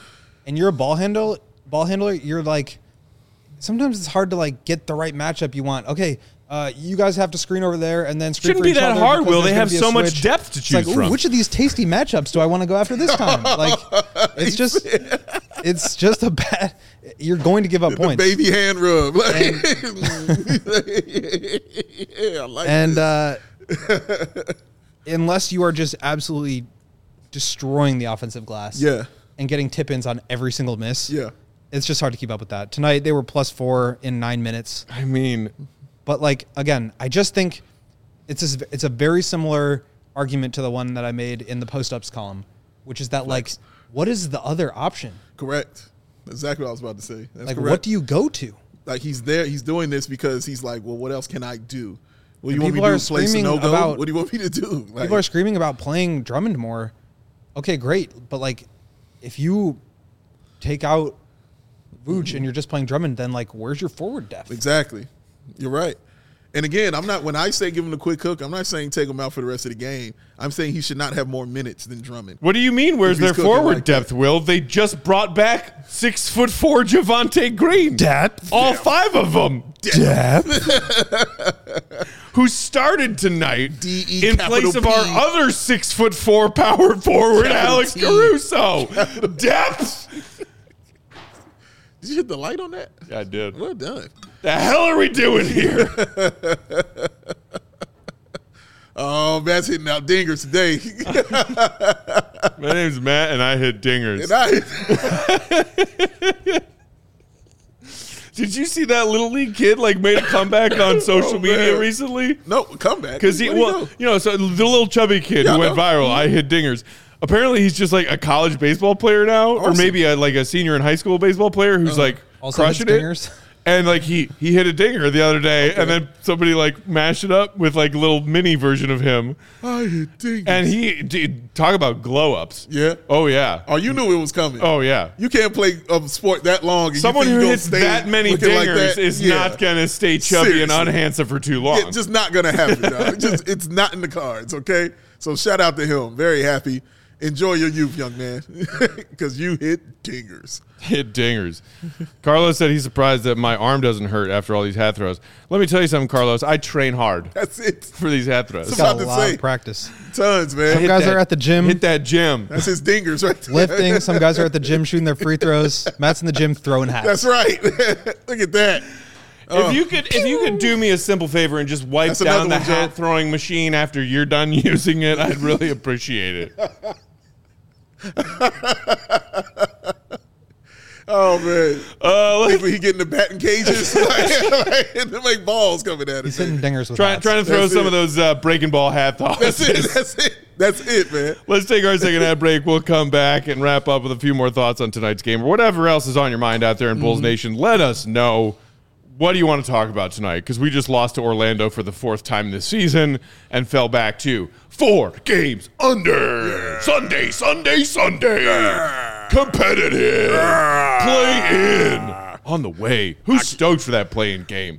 and you're a ball handle ball handler, you're like sometimes it's hard to like get the right matchup you want. Okay, uh, you guys have to screen over there and then screen Shouldn't for be each that other hard, because Will. there's They gonna have be a so much switch. depth to It's choose like, ooh, from. which of these tasty matchups do I want to go after this time? Like, it's just, it's just a bad. You're going to give up The points. baby hand rub. Like, yeah, I like and this. uh, unless you are just absolutely destroying the offensive glass, Yeah. and getting tip-ins on every single miss, Yeah. it's just hard to keep up with that. Tonight they were plus four in nine minutes. I mean, But like again, I just think it's a, it's a very similar argument to the one that I made in the post-ups column, which is that like, what is the other option? Correct. Exactly what I was about to say. That's Like, correct. what do you go to? Like he's there, he's doing this because he's like, well, what else can I do? What do you And want me people to are do? Play screaming Sunogo? about- What do you want me to do? Like, People are screaming about playing Drummond more. Okay, great, but like, if you take out Vooch and you're just playing Drummond, then like, where's your forward depth? exactly. You're right. And again, I'm not when I say give him a quick hook, I'm not saying take him out for the rest of the game. I'm saying he should not have more minutes than Drummond. what do you mean? Where's If he's their cooking forward like depth, Will? They just brought back six foot four Javante Green. Depth. All five of them. Depth. Who started tonight D E in capital place of P. our other six foot four power forward, Capital Alex T. Caruso. Depth. Did you hit the light on that? Yeah, I did. Well done. The hell are we doing here? Oh, Matt's hitting out dingers today. My name's Matt, and I hit dingers. And I, Did you see that little league kid like made a comeback on social Oh, media man. recently? no, come back. Because he, Where'd well, go? you know, so the little chubby kid Yeah, who I went know. viral, I hit dingers. Apparently, he's just like a college baseball player now, or Awesome. maybe a, like a senior in high school baseball player who's like Also hits crushing it. dingers. And like he he hit a dinger the other day, and then somebody like mashed it up with like a little mini version of him, I hit dingers. and he dude, talk about glow ups. Yeah. Oh yeah. Oh, you knew it was coming. Oh yeah. You can't play a sport that long. And Someone you think who you hits stay that many looking dingers like that? is Yeah. not gonna stay chubby Seriously. and unhandsome for too long. Yeah, just not gonna happen. Dog. Just it's not in the cards. Okay. So shout out to him. Very happy. Enjoy your youth, young man, because you hit dingers. Hit dingers. Carlos said he's surprised that my arm doesn't hurt after all these hat throws. Let me tell you something, Carlos. I train hard That's it. for these hat throws. Some- Got about a to lot say. of practice. Tons, man. Some guys that- are at the gym Hit that gym. That's his dingers right there. lifting. Some guys are at the gym shooting their free throws. Matt's in the gym throwing hats. That's right. Look at that. If you could, if you could do me a simple favor and just wipe That's down another the one, Joe. hat throwing machine after you're done using it, I'd really appreciate it. Oh man. Uh, let's People he getting the batting cages like, like, to make balls coming at him. He's hitting dingers with try, hats. trying to throw That's some it. of those uh, breaking ball hat That's tosses. it. That's it. That's it, man. Let's take our second ad break. We'll come back and wrap up with a few more thoughts on tonight's game or whatever else is on your mind out there in Bulls Nation. Let us know. What do you want to talk about tonight? Because we just lost to Orlando for the fourth time this season and fell back to four games under. Sunday, Sunday, Sunday. Competitive. Play in. On the way. Who's stoked for that play-in game?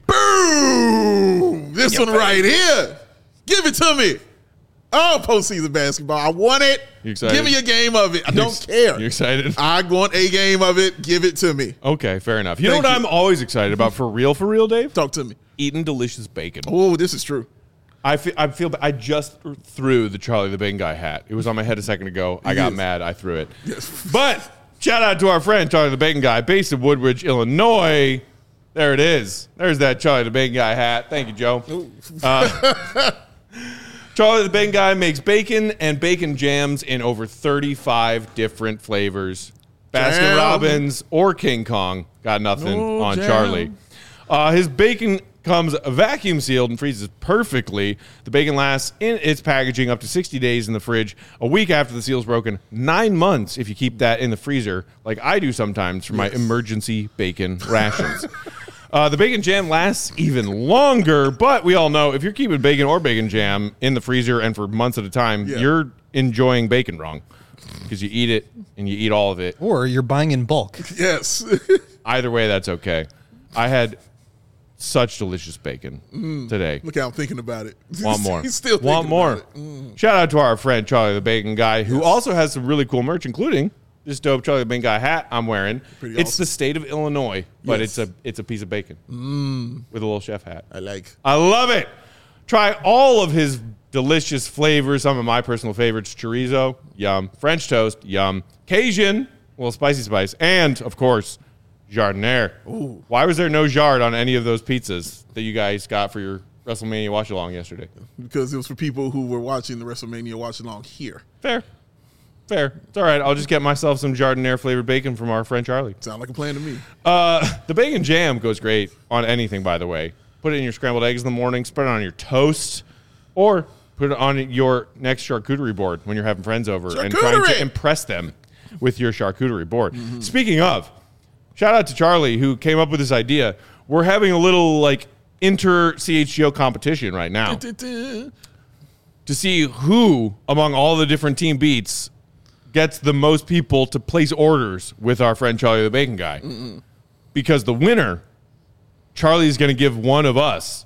Boom! This one right here. Give it to me. Oh, postseason basketball. I want it. You excited? Give me a game of it. I don't ex- care. You excited? I want a game of it. Give it to me. Okay, fair enough. You Thank know what you. I'm always excited about for real, for real, Dave? Talk to me. Eating delicious bacon. Oh, this is true. I feel, I feel I just threw the Charlie the Bacon Guy hat. It was on my head a second ago. I got Yes. mad. I threw it. Yes. But shout out to our friend Charlie the Bacon Guy, based in Woodbridge, Illinois. There it is. There's that Charlie the Bacon Guy hat. Thank you, Joe. Uh, Charlie the Bacon Guy makes bacon and bacon jams in over thirty-five different flavors. Baskin Jam. Robbins or King Kong got nothing No on jam. Charlie. Uh, his bacon comes vacuum sealed and freezes perfectly. The bacon lasts in its packaging up to sixty days in the fridge, a week after the seal's broken, nine months if you keep that in the freezer, like I do sometimes for my emergency bacon rations. Uh, the bacon jam lasts even longer, but we all know if you're keeping bacon or bacon jam in the freezer and for months at a time, Yeah. you're enjoying bacon wrong because you eat it and you eat all of it. Or you're buying in bulk. Yes. Either way, that's okay. I had such delicious bacon today. Look how I'm thinking about it. Want more? He's still Want thinking more? about it. Mm. Shout out to our friend Charlie the Bacon Guy, who also has some really cool merch, including this dope Charlie the Bacon Guy hat I'm wearing. Pretty it's awesome. the state of Illinois, but Yes. it's a it's a piece of bacon Mm. with a little chef hat. I like. I love it. Try all of his delicious flavors. Some of my personal favorites: chorizo, yum; French toast, yum; Cajun, a little spicy spice, and of course, jardiniere. Ooh. Why was there no jard on any of those pizzas that you guys got for your WrestleMania watch along yesterday? Because it was for people who were watching the WrestleMania watch along here. Fair. Fair. It's all right. I'll just get myself some jardiniere flavored bacon from our friend Charlie. Sound like a plan to me. Uh, the bacon jam goes great on anything, by the way. Put it in your scrambled eggs in the morning, spread it on your toast, or put it on your next charcuterie board when you're having friends over and trying Charcuterie! to impress them with your charcuterie board. Mm-hmm. Speaking of, shout out to Charlie who came up with this idea. We're having a little like inter C H G O competition right now to see who among all the different team beats gets the most people to place orders with our friend Charlie the Bacon Guy. Mm-mm. Because the winner, Charlie's going to give one of us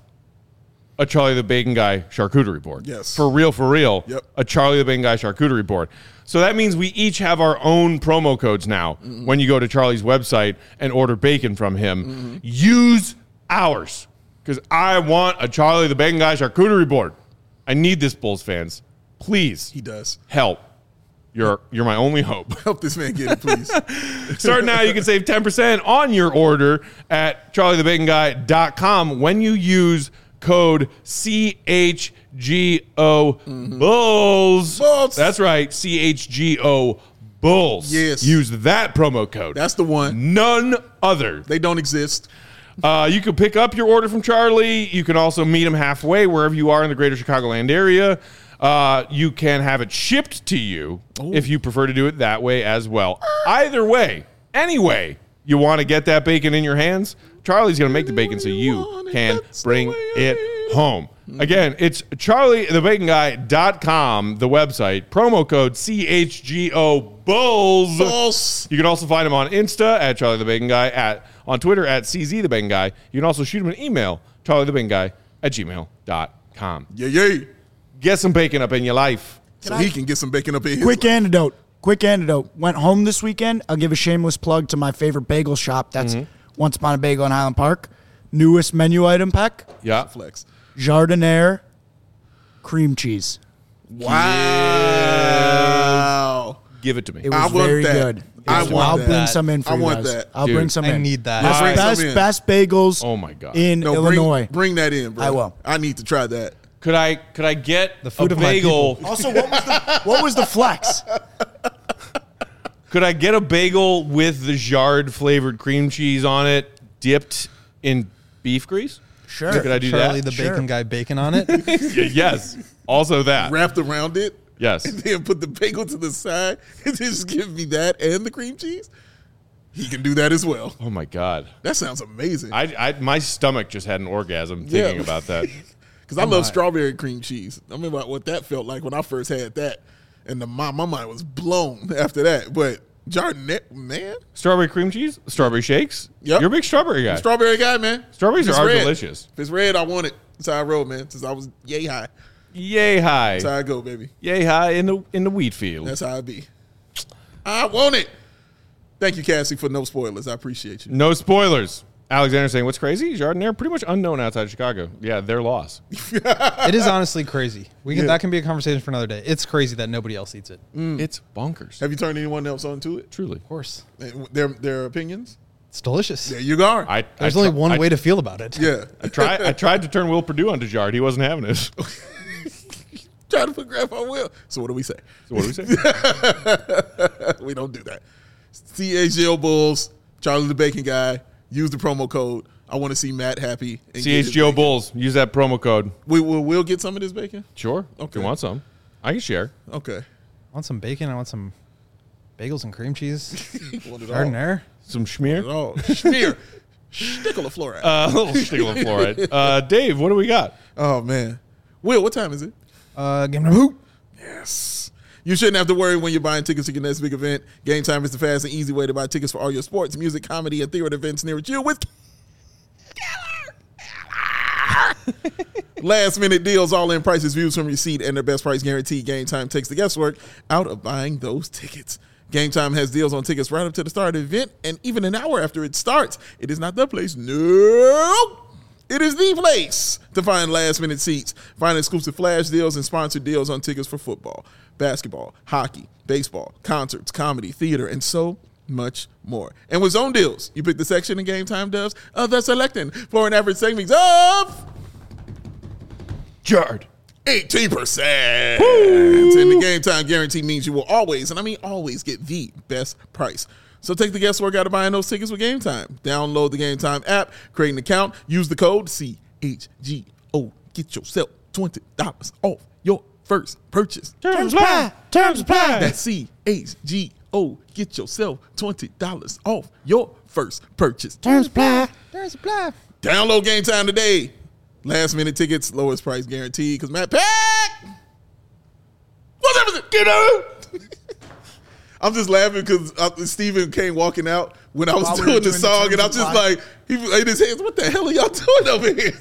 a Charlie the Bacon Guy charcuterie board. Yes. For real, for real. Yep. A Charlie the Bacon Guy charcuterie board. So that means we each have our own promo codes now. Mm-hmm. When you go to Charlie's website and order bacon from him. Mm-hmm. Use ours. Because I want a Charlie the Bacon Guy charcuterie board. I need this, Bulls fans. Please. He does. Help. You're you're my only hope. Help this man get it, please. Starting now, you can save ten percent on your order at charlie the bacon guy dot com when you use code C H G O mm-hmm. Bulls. Bulls. That's right, C H G O Bulls. Yes. Use that promo code. That's the one. None other. They don't exist. Uh, you can pick up your order from Charlie. You can also meet him halfway wherever you are in the greater Chicagoland area. Uh, you can have it shipped to you Ooh. If you prefer to do it that way as well. Either way, anyway, you want to get that bacon in your hands, Charlie's going to make the bacon so you can bring it home. Again, it's charlie the bacon guy dot com, the website, promo code C H G O Bulls. Bulls. You can also find him on Insta at Charlie the Bacon Guy, at on Twitter at C Z the Bacon Guy. You can also shoot him an email, charlie the bacon guy at gmail dot com. Yeah, yeah. Get some bacon up in your life. So he can get some bacon up in his Quick life. antidote. Quick antidote. Went home this weekend. I'll give a shameless plug to my favorite bagel shop. That's mm-hmm. Once Upon a Bagel in Highland Park. Newest menu item pack. Yeah. Flex. Jardiniere cream cheese. Wow. Give it to me. It was I want very that. good. I It- want I'll that. bring some in for I you want guys. that. I'll Dude, bring some I in. need that. Best, Bring some best, in. best bagels Oh my God. in No, Illinois. Bring, bring that in, bro. I will. I need to try that. Could I could I get The food a of my bagel? people. Also, what was the what was the flex? Could I get a bagel with the Jard flavored cream cheese on it, dipped in beef grease? Sure. Could I do Charlie that? the Sure. Bacon Guy bacon on it. Y- yes. Also that. Wrapped around it. Yes. And then put the bagel to the side and just give me that and the cream cheese. He can do that as well. Oh my God. That sounds amazing. I, I my stomach just had an orgasm thinking Yeah. about that. Because I love strawberry cream cheese. I remember what that felt like when I first had that. And the, my, my mind was blown after that. But Jardiniere, man. Strawberry cream cheese, strawberry shakes. Yep. You're a big strawberry guy. Strawberry guy, man. Strawberries If it's are red- delicious. If it's red, I want it. That's how I roll, man. Since I was yay high. Yay high. That's how I go, baby. Yay high in the in the wheat field. That's how I be. I want it. Thank you, Cassie, for no spoilers. I appreciate you. No spoilers. Alexander saying, what's crazy? Jardiniere, pretty much unknown outside of Chicago. Yeah, their loss. It is honestly crazy. We can Yeah. that can be a conversation for another day. It's crazy that nobody else eats it. It's bonkers. Have you turned anyone else on to it? Truly. Of course, And Their their opinions? it's delicious. There you go. I, There's I only tr- one I, way to feel about it. yeah. I, try, I tried to turn Will Perdue onto Jard. He wasn't having it. So Try to put Grandpa Will. So what do we say? what do we say? We don't do that. C H G O Bulls, Charlie the Bacon Guy. Use the promo code. I want to see Matt happy. and get his C H G O bacon. Bulls. Use that promo code. We will we'll get some of this bacon? Sure. If Okay. you want some. I can share. Okay. I want some bacon. I want some bagels and cream cheese. Want it all. Jardiniere. Some schmear. Oh, schmear. Stickle of fluoride. Uh, a little stickle of fluoride. Uh, Dave, what do we got? Oh, man. Will, what time is it? Uh, game number hoop. Yes. You shouldn't have to worry when you're buying tickets to your next big event. Game Time is the fast and easy way to buy tickets for all your sports, music, comedy, and theater events near you with last minute deals, all in prices, views from your seat, and their best price guarantee. Game Time takes the guesswork out of buying those tickets. Game Time has deals on tickets right up to the start of the event, and even an hour after it starts. It is not the place. No. It is the place to find last-minute seats. Find exclusive flash deals and sponsored deals on tickets for football, basketball, hockey, baseball, concerts, comedy, theater, and so much more. And with zone deals, you pick the section in Game Time does of the selecting for an average savings of Jard. eighteen percent. And the Game Time guarantee means you will always, and I mean always, get the best price. So take the guesswork out of buying those tickets with Game Time. Download the Game Time app, create an account, use the code C H G O. Get yourself twenty dollars off your first purchase. Terms apply. Terms apply. That's C H G O. Get yourself twenty dollars off your first purchase. Terms apply. There's a play. Download Game Time today. Last minute tickets, lowest price guaranteed. Because Matt Pack, what's everything? Get out. I'm just laughing because uh, Steven came walking out when I was While we doing were the doing the song, terms and I'm of just life. like, he was in his hands. What the hell are y'all doing over here?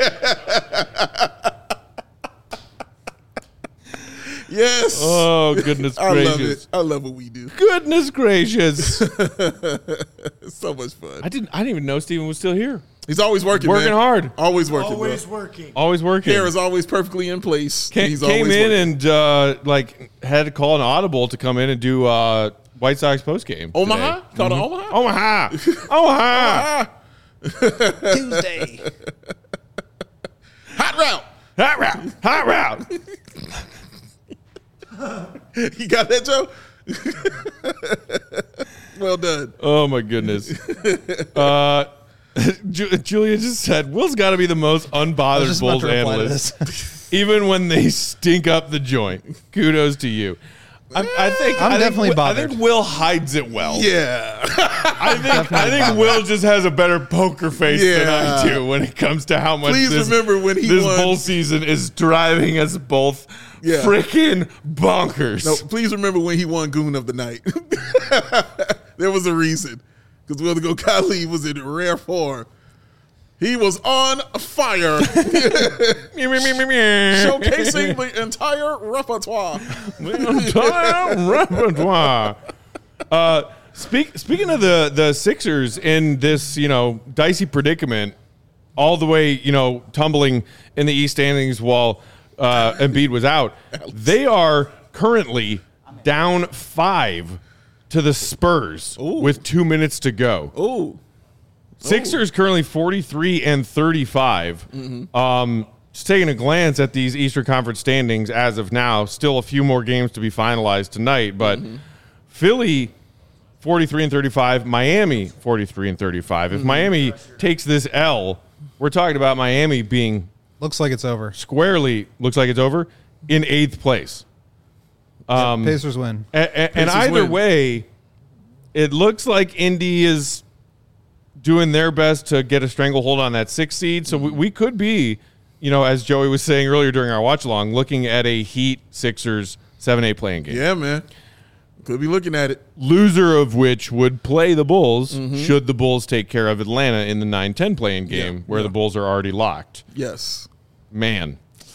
Yes. Oh, goodness I love gracious. it. I love what we do. Goodness gracious. It's so much fun. I didn't I didn't even know Steven was still here. He's always working, Working man. hard. Always working, Always bro. working. Always working. Hair is always perfectly in place. Came, He's came always in working. and uh, like had to call an audible to come in and do uh, White Sox post game. Omaha? Called Mm-hmm. it Omaha? Omaha. Omaha. Ah, Tuesday. hot route. Hot route. Hot route. You got that, Joe? Well done. Oh my goodness. Uh, Ju- Julia just said Will's got to be the most I was unbothered just about Bulls to reply to analyst, this. even when they stink up the joint. Kudos to you. I, I think I'm I think definitely Will- I bothered. think Will hides it well. Yeah. I think I Definitely think bothered. Will just has a better poker face than I Yeah. do when it comes to how much Please this, remember when he this won- bowl season is driving us both Yeah. freaking bonkers. No, please remember when he won Goon of the Night. There was a reason. Because Will the Go Kali was in rare form. He was on fire, showcasing the entire repertoire. entire repertoire. Uh, speak, speaking of the, the Sixers in this, you know, dicey predicament, all the way, you know, tumbling in the East standings while uh, Embiid was out, they are currently down five to the Spurs Ooh. with two minutes to go. Ooh. Sixers currently forty-three and thirty-five. Um, just taking a glance at these Eastern Conference standings as of now, still a few more games to be finalized tonight. But Philly, forty-three and thirty-five. Miami, forty-three and thirty-five. If Miami takes this L, we're talking about Miami being Looks like it's over. squarely, looks like it's over, in eighth place. Um, Pacers win. a- a- and Pacers either win. way, it looks like Indy is doing their best to get a stranglehold on that sixth seed. So we, we could be, you know, as Joey was saying earlier during our watch along, looking at a Heat Sixers seven eight playing game. Yeah, man. Could be looking at it. Loser of which would play the Bulls should the Bulls take care of Atlanta in the nine ten playing game Yeah, where yeah. the Bulls are already locked. Yes. Man,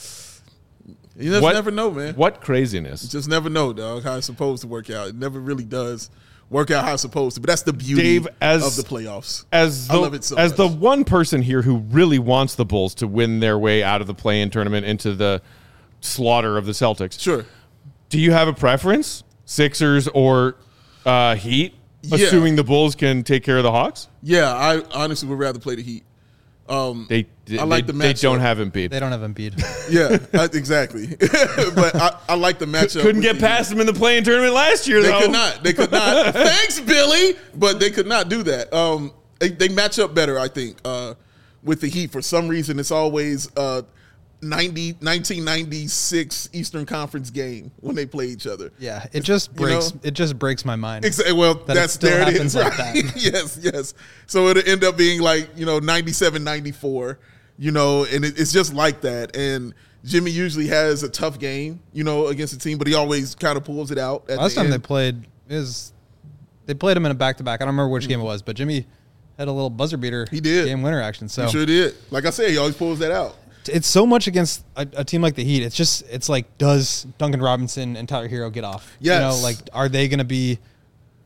You just What- never know, man. what craziness. Just never know, dog, how it's supposed to work out. It never really does work out how it's supposed to. But that's the beauty Dave, as- of the playoffs. As the, I love it so as much. the one person here who really wants the Bulls to win their way out of the play-in tournament into the slaughter of the Celtics, Sure. do you have a preference, Sixers or uh, Heat, Yeah. assuming the Bulls can take care of the Hawks? Yeah, I honestly would rather play the Heat. Um, They they, I like they, the they don't matchup. have Embiid. They don't have Embiid. yeah, I- exactly. But I, I like the matchup. Couldn't with get the past them in the play-in tournament last year, They though. could not. They could not. Thanks, Billy. But they could not do that. Um, they, they match up better, I think, uh, with the Heat. For some reason, it's always uh, ninety, nineteen ninety-six Eastern Conference game when they play each other. Yeah, it just You breaks. know? It just breaks my mind. Exactly. Well, That it that's still there it happens is. like Right? that. yes, yes. So it'll end up being like, you know, ninety-seven, ninety-four, you know, and it, it's just like that. And Jimmy usually has a tough game, you know, against the team, but he always kind of pulls it out. At Last the time end. they played is they played him in a back to back. I don't remember which game it was, but Jimmy had a little buzzer beater. He did. game winner action. So He sure did. Like I said, he always pulls that out. it's so much against a, a team like the Heat. It's just it's like, does Duncan Robinson and Tyler Hero get off? Yes. You know, like, are they going to be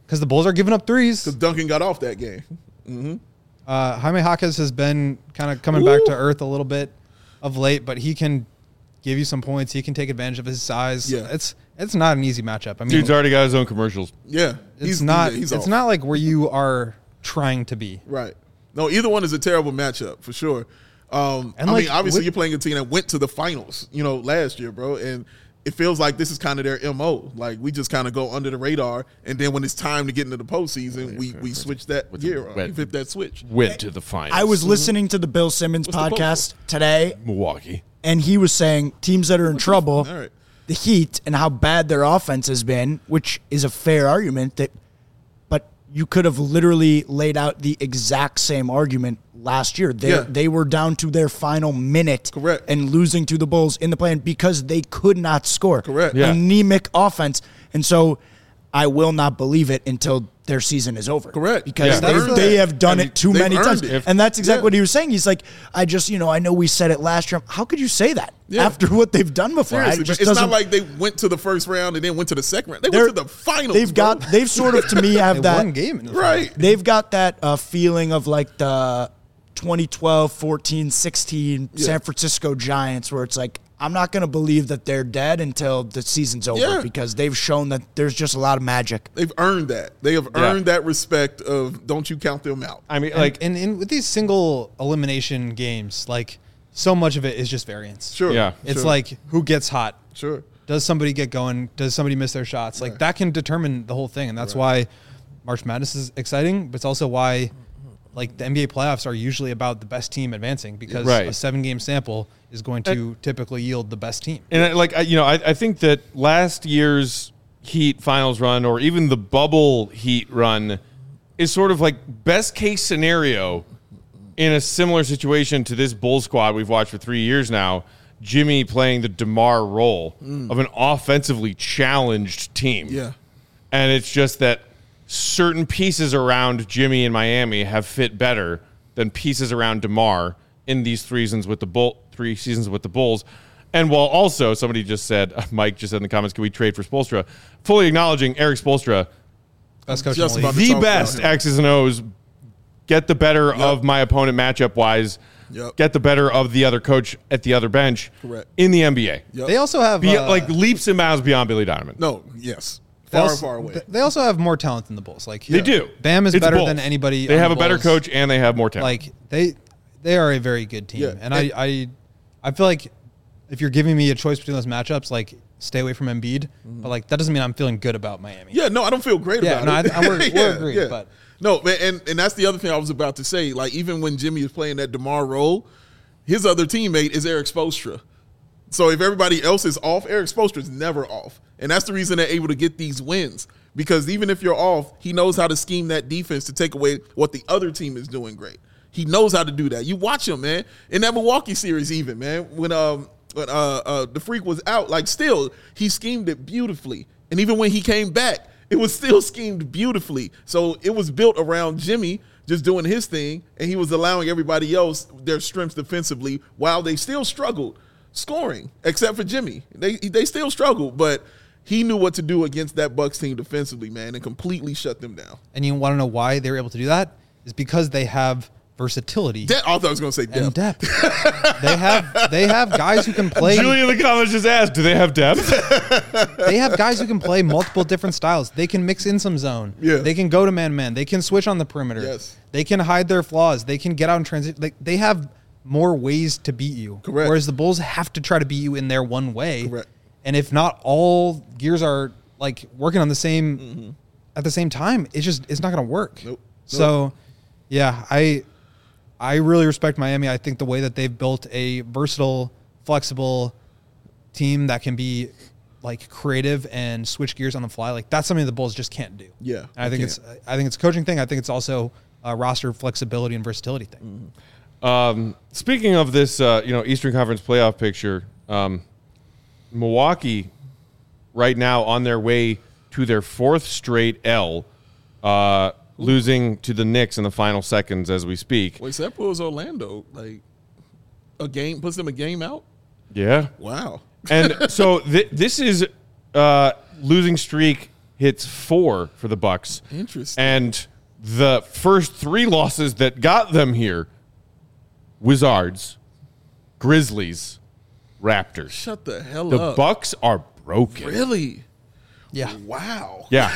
because the Bulls are giving up threes. Because Duncan got off that game. Mm-hmm. Uh, Jaime Jaquez has been kind of coming Ooh. back to earth a little bit of late, but he can give you some points. He can take advantage of his size. Yeah. It's it's not an easy matchup. I mean, dude's already got his own commercials. Yeah, it's he's, not. He's, he's it's off. not like where you are trying to be. Right. No, either one is a terrible matchup for sure. Um, And I like, mean, obviously, with- you're playing a team that went to the finals, you know, last year, bro, and it feels like this is kind of their M O. Like we just kind of go under the radar, and then when it's time to get into the postseason, we we switch that gear, on. We flip that switch. Went to the finals. I was listening to the Bill Simmons What's the podcast today, Milwaukee. and he was saying teams that are in trouble, All right. the Heat, and how bad their offense has been, which is a fair argument. That, but you could have literally laid out the exact same argument last year. They Yeah. they were down to their final minute, Correct. and losing to the Bulls in the play-in because they could not score. Correct. Yeah. Anemic offense, and so I will not believe it until their season is over. Correct. Because Yeah. they, They've they earned have done it. it too They've many earned times. it. And that's exactly Yeah. what he was saying. He's like, I just, you know, I know we said it last year. How could you say that Yeah. after what they've done before? Seriously, It just it's not doesn't- like they went to the first round and then went to the second round. They they're- went to the finals. They've bro. got, they've sort of, to me, have They that. won game in the right. They've got that uh, feeling of like the twenty twelve, fourteen, sixteen Yeah. San Francisco Giants, where it's like, I'm not going to believe that they're dead until the season's over Yeah. because they've shown that there's just a lot of magic. They've earned that. They have Yeah. earned that respect of don't you count them out. I mean, Like, like, and, and with these single elimination games, like so much of it is just variance. Sure. Yeah. It's sure, like who gets hot. sure. Does somebody get going? Does somebody miss their shots? Like Right. that can determine the whole thing, and that's why March Madness is exciting. But it's also why, like the N B A playoffs are usually about the best team advancing because Right. a seven-game sample is going to typically yield the best team. and I, like I, you know, I, I think that last year's Heat finals run, or even the bubble Heat run, is sort of like best case scenario in a similar situation to this Bull squad we've watched for three years now. Jimmy playing the DeMar role of an offensively challenged team. Yeah. And it's just that certain pieces around Jimmy in Miami have fit better than pieces around DeMar in these three seasons with the Bull, three seasons with the Bulls. And while also somebody just said, Mike just said in the comments, can we trade for Spoelstra? Fully acknowledging Eric Spoelstra, Best coach Just in the about league. to the talk about best him. X's and O's, get the better of my opponent matchup wise, Yep. get the better of the other coach at the other bench Correct. in the N B A. Yep. They also have Be, uh, like leaps and bounds beyond Billy Donovan. No, yes. they Far, also- far away. th- They also have more talent than the Bulls. Like They do. Bam is It's better Bulls. than anybody. They on have the a better Bulls. coach and they have more talent. Like they, they are a very good team, Yeah. and I, I, I feel like if you're giving me a choice between those matchups, like stay away from Embiid, but like that doesn't mean I'm feeling good about Miami. Yeah, no, I don't feel great Yeah, about no, it. I- I- we're- we're agreed, but- no, man, and, and that's the other thing I was about to say. Like, even when Jimmy is playing that DeMar role, his other teammate is Eric Spoelstra. So if everybody else is off, Eric Spoelstra is never off, and that's the reason they're able to get these wins. Because even if you're off, he knows how to scheme that defense to take away what the other team is doing great. He knows how to do that. You watch him, man, in that Milwaukee series, even man, when um when uh, uh the Freak was out, like still he schemed it beautifully, and even when he came back, it was still schemed beautifully. So it was built around Jimmy just doing his thing, and he was allowing everybody else their strengths defensively while they still struggled scoring, except for Jimmy. They they still struggled, but he knew what to do against that Bucks team defensively, man, and completely shut them down. And you want to know why they were able to do that? Is because they have versatility De- I thought I was going to say and depth. depth. they have they have guys who can play. Julie in the comments just asked, do they have depth? They have guys who can play multiple different styles. They can mix in some zone. Yeah. They can go to man man. They can switch on the perimeter. Yes. They can hide their flaws. They can get out and transit. Like they have more ways to beat you. Correct. Whereas the Bulls have to try to beat you in their one way. Correct. And if not all gears are like working on the same Mm-hmm. at the same time, it's just it's not going to work. Nope. So, yeah, I I really respect Miami. I think the way that they've built a versatile, flexible team that can be like creative and switch gears on the fly, like that's something the Bulls just can't do. Yeah, And I they think can't. it's I think it's a coaching thing. I think it's also a roster flexibility and versatility thing. Um, speaking of this, uh, you know, Eastern Conference playoff picture, um, Milwaukee right now on their way to their fourth straight L, uh, losing to the Knicks in the final seconds as we speak. Wait, so that puts Orlando like a game, puts them a game out? Yeah. Wow. And so th- this is uh, losing streak hits four for the Bucks. Interesting. And the first three losses that got them here, Wizards, Grizzlies, Raptors. Shut the hell The up. Bucks are broken. Really? Yeah. Wow. Yeah.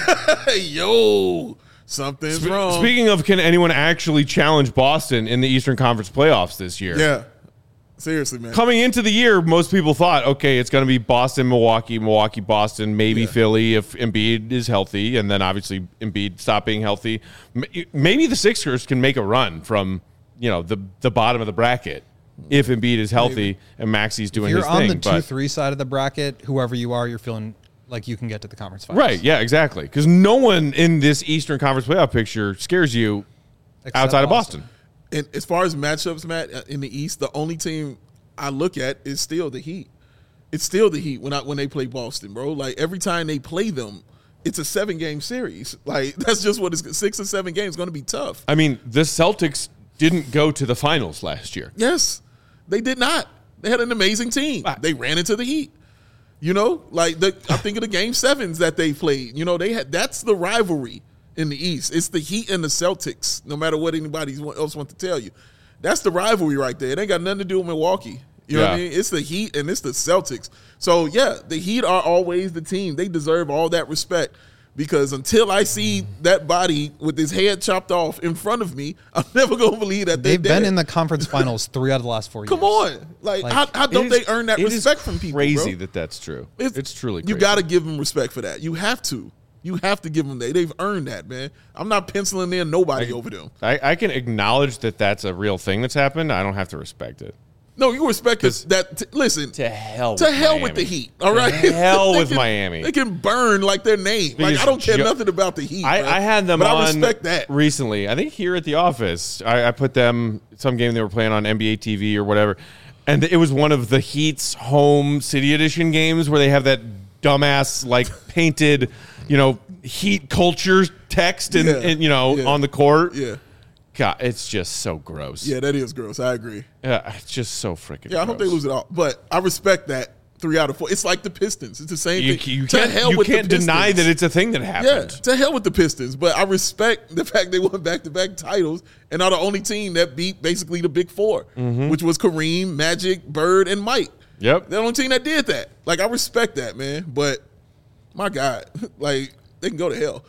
Yo, something's Sp- wrong. Speaking of, can anyone actually challenge Boston in the Eastern Conference playoffs this year? Yeah. Seriously, man. Coming into the year, most people thought, okay, it's going to be Boston, Milwaukee, Milwaukee, Boston, maybe Yeah. Philly if Embiid is healthy, and then obviously Embiid stop being healthy. M- Maybe the Sixers can make a run from, you know, the the bottom of the bracket if Embiid is healthy Maybe. and Maxi's doing If you're his on thing. the but- two three side of the bracket, whoever you are, you're feeling like you can get to the conference finals. Right, yeah, exactly. Because no one in this Eastern Conference playoff picture scares you Except outside of Boston. And as far as matchups, Matt, uh, in the East, the only team I look at is still the Heat. It's still the Heat when I, when they play Boston, bro. Like every time they play them, it's a seven game series. Like that's just what it's six or seven games going to be tough. I mean, the Celtics didn't go to the finals last year. Yes, they did not. They had an amazing team. Wow. They ran into the Heat. You know, like the I think of the game sevens that they played. You know, they had that's the rivalry in the East. It's the Heat and the Celtics. No matter what anybody else wants to tell you, that's the rivalry right there. It ain't got nothing to do with Milwaukee. You know what I Yeah. mean? It's the Heat and it's the Celtics. So yeah, the Heat are always the team. They deserve all that respect. Because until I see that body with his head chopped off in front of me, I'm never gonna believe that They've they're been dead. in the conference finals three out of the last four years. Come on, like, Like, how, how don't It they is- earn that it is respect from people? Crazy bro? that that's true. It's, truly crazy. You got to give them respect for that. You have to. You have to give them that. They've earned that, man. I'm not penciling in nobody over them. I, I can acknowledge that that's a real thing that's happened. I don't have to respect it. No, you respect this, that. T- listen, To hell to with hell Miami. with the Heat. All right, To hell They with can- Miami. They can burn like their name. Like Because I don't care Jo- nothing about the Heat. I, bro. I had them but on I respect that. recently. I think here at the office, I, I put them some game they were playing on N B A T V or whatever, and it was one of the Heat's home City Edition games where they have that dumbass like painted, you know, Heat culture text and, Yeah. and you know Yeah. on the court. Yeah, God, it's just so gross. yeah, that is gross. I agree. Yeah, it's just so freaking. Yeah, I hope they lose it all. But I respect that three out of four. It's like the Pistons. It's the same You, thing. you To can't, hell you with the can't deny Pistons. that it's a thing that Yeah, happened. to hell with the Pistons. But I respect the fact they won back-to-back titles and are the only team that beat basically the Big Four, Mm-hmm. which was Kareem, Magic, Bird, and Mike. Yep. They're the only team that did that. Like, I respect that, man. But, my God, like, they can go to hell.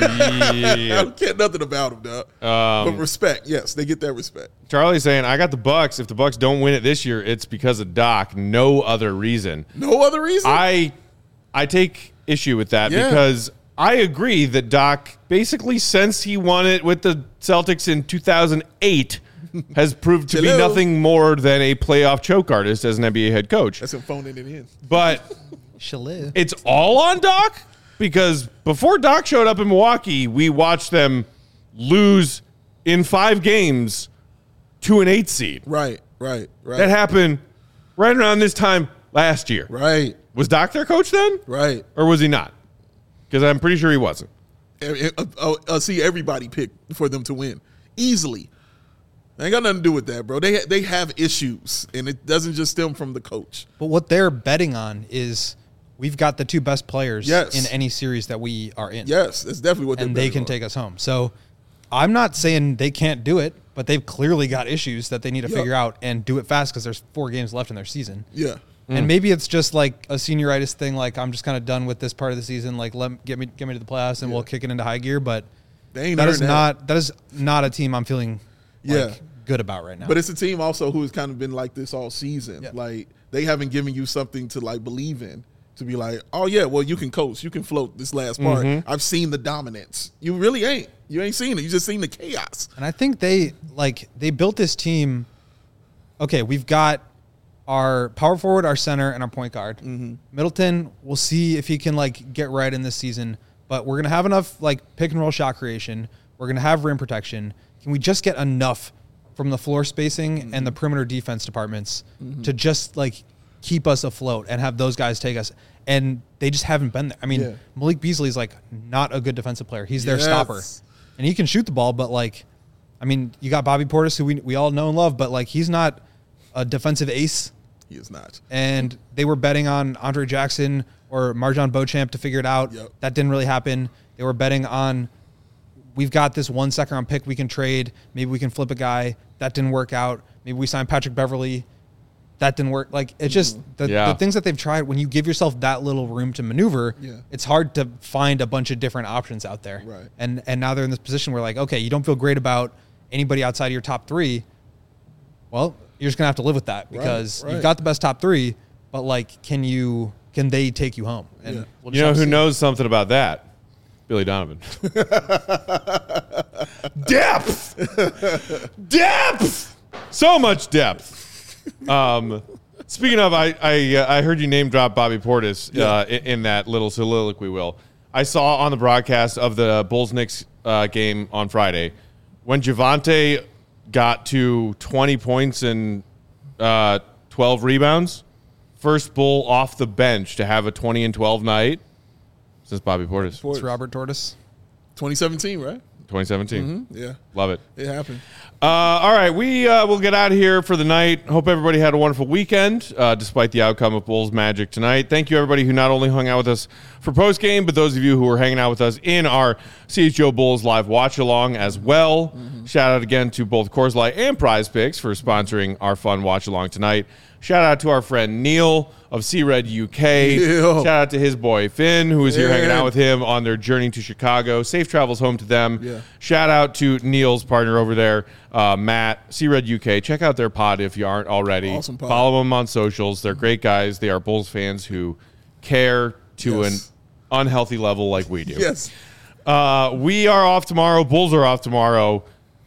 I Yeah. don't care nothing about them, dog. Um, but respect, yes, they get that respect. Charlie's saying, I got the Bucks. If the Bucks don't win it this year, it's because of Doc. No other reason. No other reason? I I take issue with that Yeah. because I agree that Doc, basically since he won it with the Celtics in two thousand eight, has proved to be Hello. nothing more than a playoff choke artist as an N B A head coach. That's him phoning it in. But Shalou. it's all on Doc because before Doc showed up in Milwaukee, we watched them lose in five games to an eight seed. Right, right, right. That happened right around this time last year. right, Was Doc their coach then? right. Or was he not? Because I'm pretty sure he wasn't. I, I, I, I see everybody pick for them to win easily. Ain't got nothing to do with that, bro. They they have issues, and it doesn't just stem from the coach. But what they're betting on is we've got the two best players Yes. in any series that we are in. Yes, that's definitely what. And they're they betting can on. take us home. So I'm not saying they can't do it, but they've clearly got issues that they need to Yep. figure out and do it fast because there's four games left in their season. Yeah, And maybe it's just like a senioritis thing. Like I'm just kind of done with this part of the season. Like let get me get me to the playoffs and we'll kick it into high gear. But they ain't that earned is not that is not a team I'm feeling like Yeah. good about right now. But it's a team also who has kind of been like this all season. Yeah. Like they haven't given you something to like believe in. To be like, oh yeah, well you can coach, you can float this last part. I've seen the dominance. You really ain't. You ain't seen it. You just seen the chaos. And I think they like they built this team. Okay, we've got our power forward, our center, and our point guard. Mm-hmm. Middleton, we'll see if he can like get right in this season. But we're gonna have enough like pick and roll shot creation. We're gonna have rim protection. Can we just get enough from the floor spacing Mm-hmm. and the perimeter defense departments to just like keep us afloat and have those guys take us? And they just haven't been there. I mean, Yeah. Malik Beasley's like not a good defensive player. He's their Yes. stopper. And he can shoot the ball, but like, I mean, you got Bobby Portis, who we we all know and love, but like he's not a defensive ace. He is not. And they were betting on Andre Jackson or Marjon Beauchamp to figure it out. Yep. That didn't really happen. They were betting on, we've got this one second round pick we can trade. Maybe we can flip a guy. That didn't work out. Maybe we signed Patrick Beverley. That didn't work. Like, it's just the, Yeah. the things that they've tried, when you give yourself that little room to maneuver, Yeah. it's hard to find a bunch of different options out there. Right. And and now they're in this position where, like, okay, you don't feel great about anybody outside of your top three. Well, you're just going to have to live with that because right. you've got the best top three, but, like, can you can they take you home? And Yeah. we'll just You know have to who see. knows something about that? Billy Donovan. Depth! Depth! So much depth. Um, speaking of, I I, uh, I heard you name drop Bobby Portis uh, in, in that little soliloquy, Will. I saw on the broadcast of the Bulls-Knicks uh, game on Friday when Javante got to twenty points and uh, twelve rebounds, first Bull off the bench to have a twenty and twelve night since Bobby Portis. It's Robert Tortoise. twenty seventeen, right? twenty seventeen. Yeah, Love it. it happened. Uh, all right, we uh, will get out of here for the night. Hope everybody had a wonderful weekend, uh, despite the outcome of Bulls Magic tonight. Thank you, everybody who not only hung out with us for post game, but those of you who were hanging out with us in our C H G O Bulls live watch along as well. Mm-hmm. Shout out again to both Coors Light and Prize Picks for sponsoring our fun watch along tonight. Shout out to our friend Neil of C-Red U K. Neil. Shout out to his boy Finn, who was here Yeah. hanging out with him on their journey to Chicago. Safe travels home to them. Yeah. Shout out to Neil's partner over there, uh, Matt, C-Red U K. Check out their pod if you aren't already. Awesome pod. Follow them on socials. They're great guys. They are Bulls fans who care to Yes. an unhealthy level like we do. Yes. Uh, we are off tomorrow. Bulls are off tomorrow.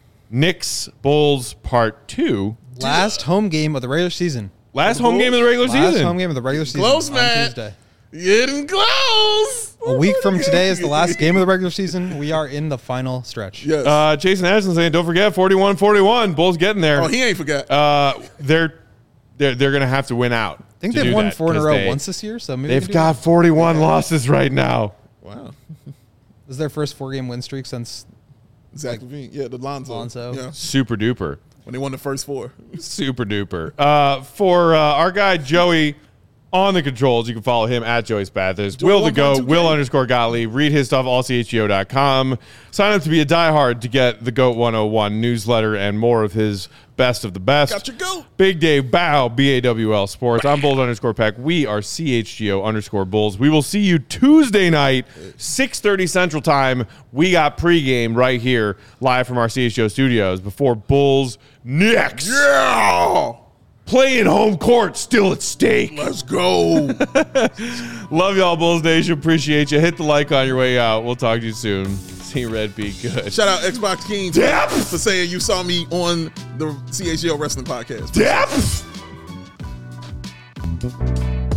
Knicks Bulls part two. Last home game of the regular season. Last home game of the regular Last season. home game of the regular season Close, on man. Tuesday. Getting close. A week from today is the last game of the regular season. We are in the final stretch. Yes. Uh, Jason Addison saying, don't forget, forty-one forty-one. Bulls getting there. oh, he ain't forgot. Uh, they're they're they're gonna have to win out. I think to they've do won that, four in a 'cause row they- once this year, so maybe we They've can do got that. forty-one losses right now. wow. This is their first four-game win streak since Zach Levine. Yeah, the Lonzo. Lonzo. Yeah. Super duper. When they won the first four. Super duper. Uh, for uh, our guy Joey on the controls, you can follow him at Joey Spathers. Will the Goat, one point two K. Will underscore Gottlieb. Read his stuff, all C H G O dot com. Sign up to be a diehard to get the Goat one oh one newsletter and more of his best of the best. Got your goat. Big Dave Bow, B A W L Sports. I'm Bulls underscore Peck. We are C H G O underscore Bulls. We will see you Tuesday night, six thirty Central Time. We got pregame right here, live from our C H G O studios before Bulls Knicks. Yeah. Playing home court, still at stake. Let's go. Love y'all, Bulls Nation. Appreciate you. Hit the like on your way out. We'll talk to you soon. See Red be good. Shout out Xbox Kings Depth. for saying you saw me on the C H G O Wrestling Podcast. Depth.